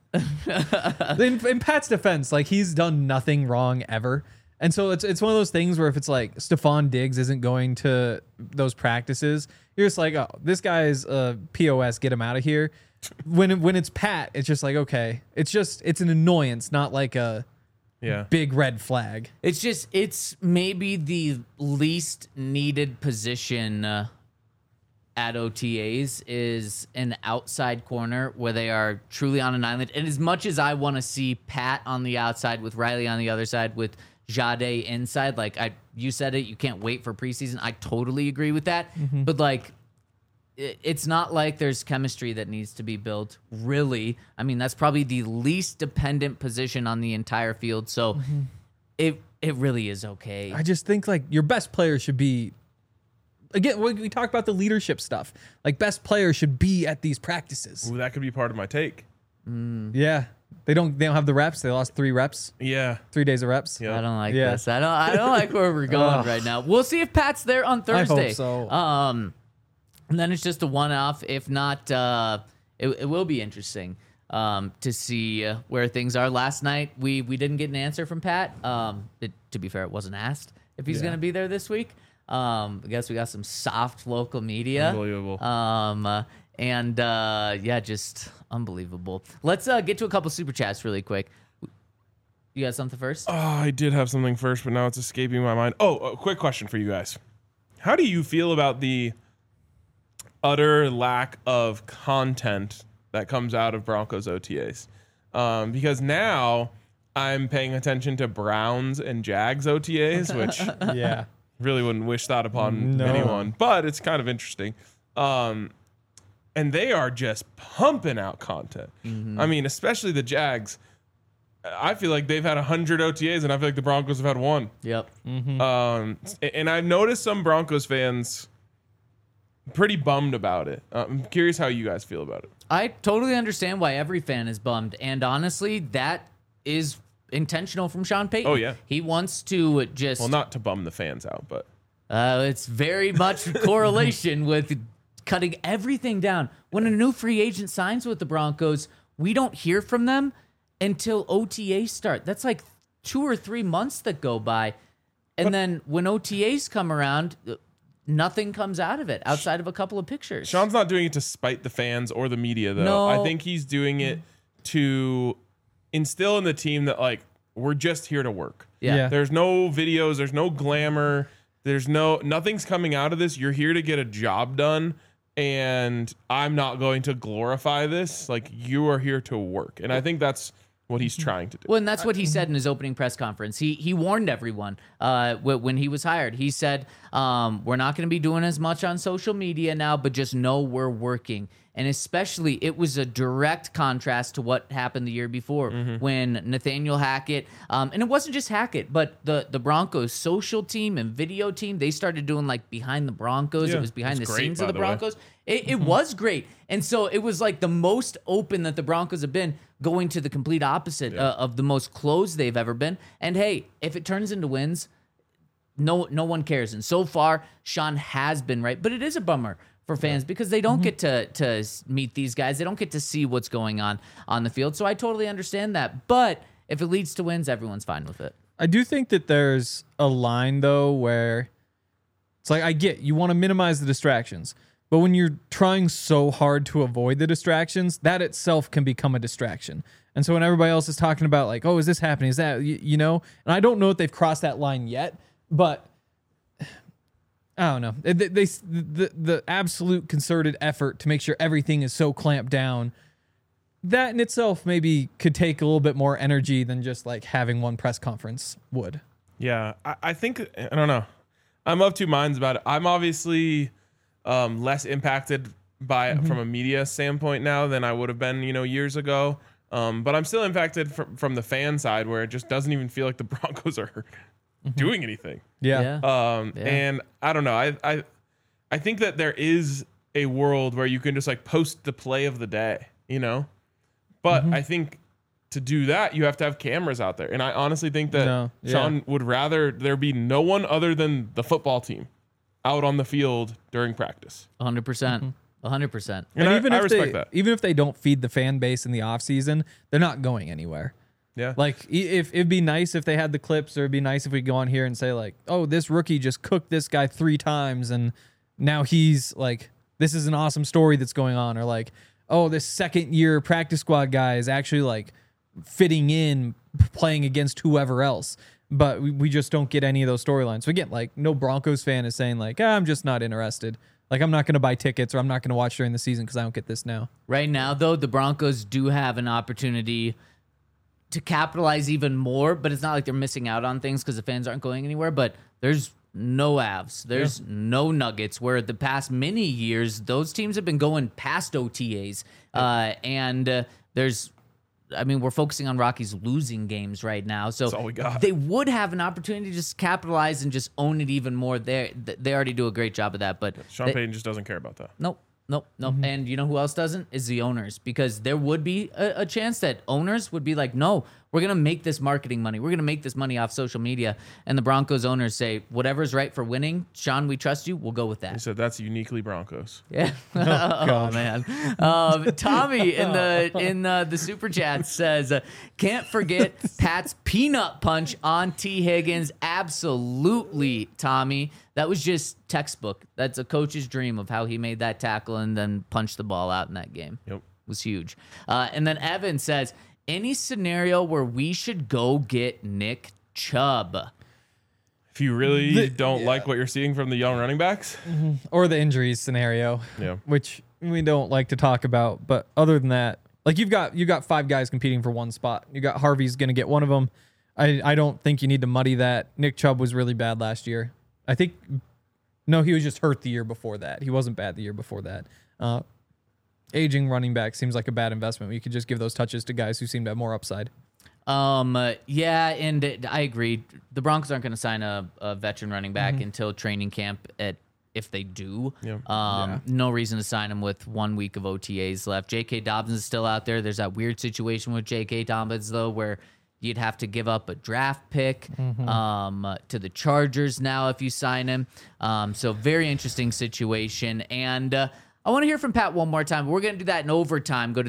In Pat's defense, like, he's done nothing wrong ever. And so it's one of those things where if it's like Stephon Diggs isn't going to those practices, you're just like, oh, this guy's a POS, get him out of here. When it's Pat, it's just like, okay, it's an annoyance, not like a Yeah. big red flag. It's maybe the least needed position at OTAs is an outside corner where they are truly on an island. And as much as I want to see Pat on the outside with Riley on the other side with Jade inside, like you said it, you can't wait for preseason. I totally agree with that. But like, it's not like there's chemistry that needs to be built, really. I mean, that's probably the least dependent position on the entire field. So it really is okay. I just think like your best player should be, again, we talk about the leadership stuff. Like, best players should be at these practices. Ooh, that could be part of my take. Yeah. They don't have the reps. They lost 3 reps, Yeah. 3 days of reps. Yeah. I don't like Yeah. this. I don't like where we're going right now. We'll see if Pat's there on Thursday. so. And then it's just a one-off. If not, it will be interesting to see where things are. Last night we didn't get an answer from Pat. To be fair, it wasn't asked if he's going to be there this week. I guess we got some soft local media. Unbelievable. Yeah, just unbelievable. Let's get to a couple super chats really quick. You got something first? Oh, I did have something first, but now it's escaping my mind. Oh, a quick question for you guys. How do you feel about the utter lack of content that comes out of Broncos OTAs? Because now I'm paying attention to Browns and Jags OTAs, which Yeah. really wouldn't wish that upon No. anyone, but it's kind of interesting. And they are just pumping out content. I mean, especially the Jags. I feel like they've had 100 OTAs, and I feel like the Broncos have had 1. Yep. And I've noticed some Broncos fans pretty bummed about it. I'm curious how you guys feel about it. I totally understand why every fan is bummed. And honestly, that is intentional from Sean Payton. Oh, yeah. He wants to just... Well, not to bum the fans out, but it's very much correlation with cutting everything down. When a new free agent signs with the Broncos, we don't hear from them until OTAs start. That's like 2 or 3 months that go by. And then when OTAs come around, nothing comes out of it outside of a couple of pictures. Sean's not doing it to spite the fans or the media, though. No. I think he's doing it to instill in the team that, like, we're just here to work. Yeah. There's no videos. There's no glamour. Nothing's coming out of this. You're here to get a job done. and I'm not going to glorify this. Like, you are here to work. And I think that's what he's trying to do. Well, and that's what he said in his opening press conference. He warned everyone when he was hired. He said, we're not going to be doing as much on social media now, but just know we're working. And especially, it was a direct contrast to what happened the year before when Nathaniel Hackett, and it wasn't just Hackett, but the Broncos social team and video team, they started doing like behind the Broncos. Yeah, It was behind the it's great, scenes by of the the way. Broncos. It was great. And so it was like the most open that the Broncos have been, going to the complete opposite of the most closed they've ever been. And hey, if it turns into wins, no one cares. And so far, Sean has been right. But it is a bummer for fans because they don't get to meet these guys. They don't get to see what's going on the field. So I totally understand that. But if it leads to wins, everyone's fine with it. I do think that there's a line, though, where it's like, I get you want to minimize the distractions, but when you're trying so hard to avoid the distractions, that itself can become a distraction. And so when everybody else is talking about like, oh, is this happening? Is that, you know? And I don't know if they've crossed that line yet, but I don't know. The absolute concerted effort to make sure everything is so clamped down, that in itself maybe could take a little bit more energy than just like having one press conference would. Yeah, I think, I don't know. I'm of two minds about it. I'm obviously less impacted by it from a media standpoint now than I would have been, years ago. But I'm still impacted from the fan side, where it just doesn't even feel like the Broncos are doing anything. Yeah. And I don't know. I think that there is a world where you can just like post the play of the day, But I think to do that, you have to have cameras out there. And I honestly think that Sean would rather there be no one other than the football team out on the field during practice. 100%. 100%. And I respect that. Even if they don't feed the fan base in the offseason, they're not going anywhere. Yeah. Like, if it'd be nice if they had the clips, or it'd be nice if we go on here and say like, oh, this rookie just cooked this guy 3 times and now he's like, this is an awesome story that's going on. Or like, oh, this second year practice squad guy is actually like fitting in, playing against whoever else. But we just don't get any of those storylines. So again, like, no Broncos fan is saying like, I'm just not interested. Like, I'm not going to buy tickets, or I'm not going to watch during the season because I don't get this now. Right now, though, the Broncos do have an opportunity to capitalize even more, but it's not like they're missing out on things because the fans aren't going anywhere. But there's no Avs. There's no Nuggets, where the past many years, those teams have been going past OTAs. We're focusing on Rockies losing games right now. So That's all we got. They would have an opportunity to just capitalize and just own it even more. They already do a great job of that. But Sean Payton just doesn't care about that. Nope. And you know who else doesn't? Is the owners. Because there would be a chance that owners would be like, no, we're going to make this marketing money. We're going to make this money off social media. And the Broncos owners say, whatever's right for winning, Sean, we trust you. We'll go with He that. said that's uniquely Broncos. Yeah. Oh, man. Tommy in the super chat says, can't forget Pat's peanut punch on T. Higgins. Absolutely, Tommy. That was just textbook. That's a coach's dream of how he made that tackle and then punched the ball out in that game. Yep. It was huge. And then Evan says, any scenario where we should go get Nick Chubb? If you really don't like what you're seeing from the young running backs, Or the injuries scenario, which we don't like to talk about. But other than that, like, you've got 5 guys competing for one spot. You got Harvey's going to get one of them. I don't think you need to muddy that. Nick Chubb was really bad last year. I think, no, he was just hurt the year before that. He wasn't bad the year before that. Aging running back seems like a bad investment. You could just give those touches to guys who seem to have more upside. Yeah, and I agree. The Broncos aren't going to sign a veteran running back until training camp if they do. No reason to sign him with 1 week of OTAs left. J.K. Dobbins is still out there. There's that weird situation with J.K. Dobbins, though, where you'd have to give up a draft pick to the Chargers now if you sign him. So very interesting situation. And I want to hear from Pat one more time. We're going to do that in overtime. Go to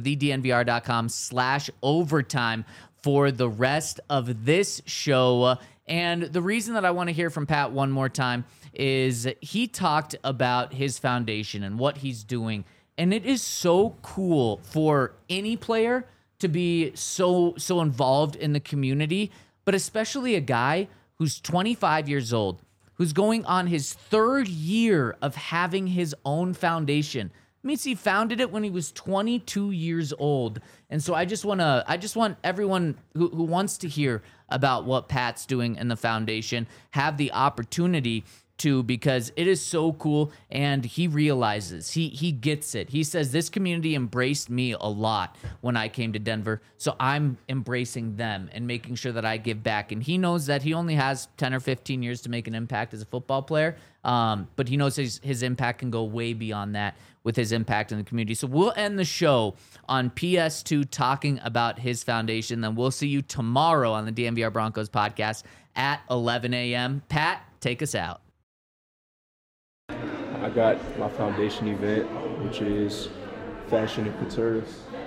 thednvr.com/overtime for the rest of this show. And the reason that I want to hear from Pat one more time is he talked about his foundation and what he's doing. And it is so cool for any player to be so involved in the community, but especially a guy who's 25 years old, who's going on his third year of having his own foundation. Means he founded it when he was 22 years old. And so I just want everyone who wants to hear about what Pat's doing in the foundation have the opportunity to, because it is so cool, and he realizes, he gets it. He says, this community embraced me a lot when I came to Denver, so I'm embracing them and making sure that I give back. And he knows that he only has 10 or 15 years to make an impact as a football player, but he knows his impact can go way beyond that with his impact in the community. So we'll end the show on PS2 talking about his foundation. Then we'll see you tomorrow on the DNVR Broncos podcast at 11 a.m. Pat, take us out. I got my foundation event, which is fashion and couture,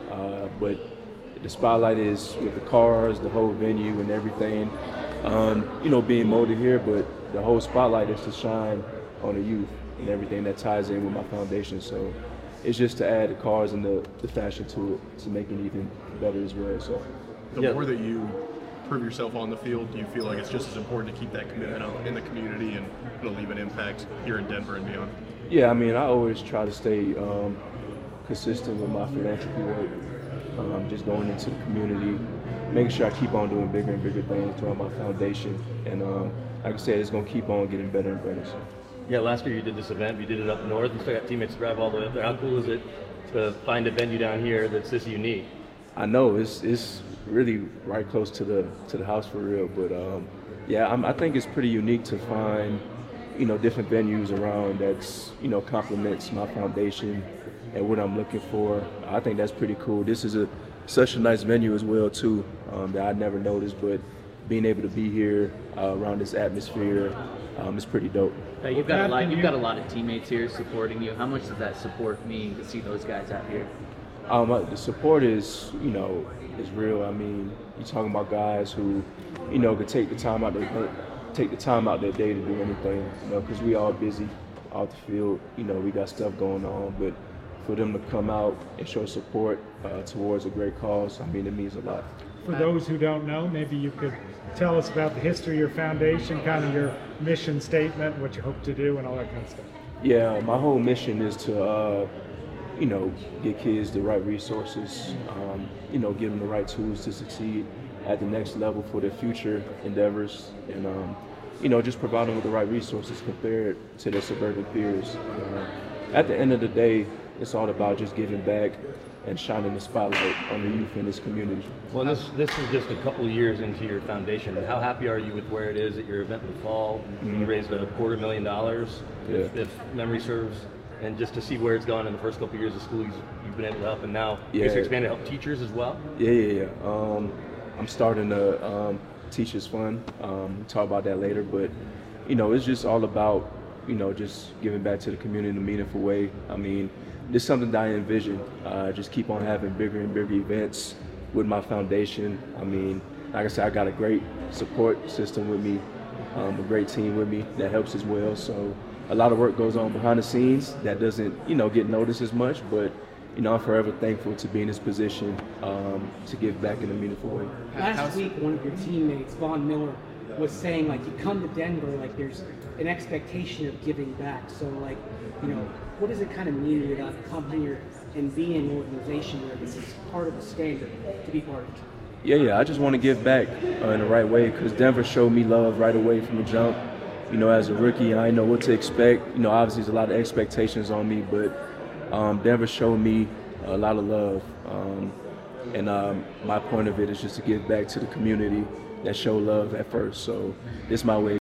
but the spotlight is with the cars, the whole venue and everything, being molded here, but the whole spotlight is to shine on the youth and everything that ties in with my foundation. So it's just to add the cars and the fashion to it to make it even better as well. So the more that you prove yourself on the field, do you feel like it's just as important to keep that commitment out in the community and leave an impact here in Denver and beyond? Yeah, I mean, I always try to stay consistent with my philanthropy work, just going into the community, making sure I keep on doing bigger and bigger things throughout my foundation. And like I said, it's going to keep on getting better and better. So. Yeah, last year you did this event, you did it up north, you still got teammates to drive all the way up there. How cool is it to find a venue down here that's this unique? I know, it's really right close to the house for real, but I think it's pretty unique to find different venues around that's complements my foundation and what I'm looking for. I think that's pretty cool. This is such a nice venue as well too, that I never noticed, but being able to be here around this atmosphere is pretty dope. You've got a lot of teammates here supporting you. How much does that support mean to see those guys out here? The support is real. I mean, you're talking about guys who, could take the time out their day to do anything, because we all busy out the field. We got stuff going on, but for them to come out and show support towards a great cause, I mean, it means a lot. For those who don't know, maybe you could tell us about the history of your foundation, kind of your mission statement, what you hope to do, and all that kind of stuff. Yeah, my whole mission is to, get kids the right resources, give them the right tools to succeed at the next level for their future endeavors, and just provide them with the right resources compared to their suburban peers. At the end of the day, it's all about just giving back and shining the spotlight on the youth in this community. Well, this is just a couple of years into your foundation. How happy are you with where it is at your event in the fall? You raised $250,000, if memory serves, and just to see where it's gone in the first couple of years of school, you've been able to help, and now you're expanding to help teachers as well? Yeah. I'm starting a Teachers Fund. We'll talk about that later, but it's just all about just giving back to the community in a meaningful way. I mean, this is something that I envision. Just keep on having bigger and bigger events with my foundation. I mean, like I said, I got a great support system with me, a great team with me that helps as well. So a lot of work goes on behind the scenes that doesn't, get noticed as much, but I'm forever thankful to be in this position to give back in a meaningful way. Last week, one of your teammates, Von Miller, was saying, you come to Denver, there's an expectation of giving back. So, what does it kind of mean to come here and be in an organization where this is part of the standard to be part of? Yeah, I just want to give back in the right way, because Denver showed me love right away from the jump. As a rookie, I know what to expect. Obviously there's a lot of expectations on me, but Denver showed me a lot of love. And my point of it is just to give back to the community that showed love at first. So this is my way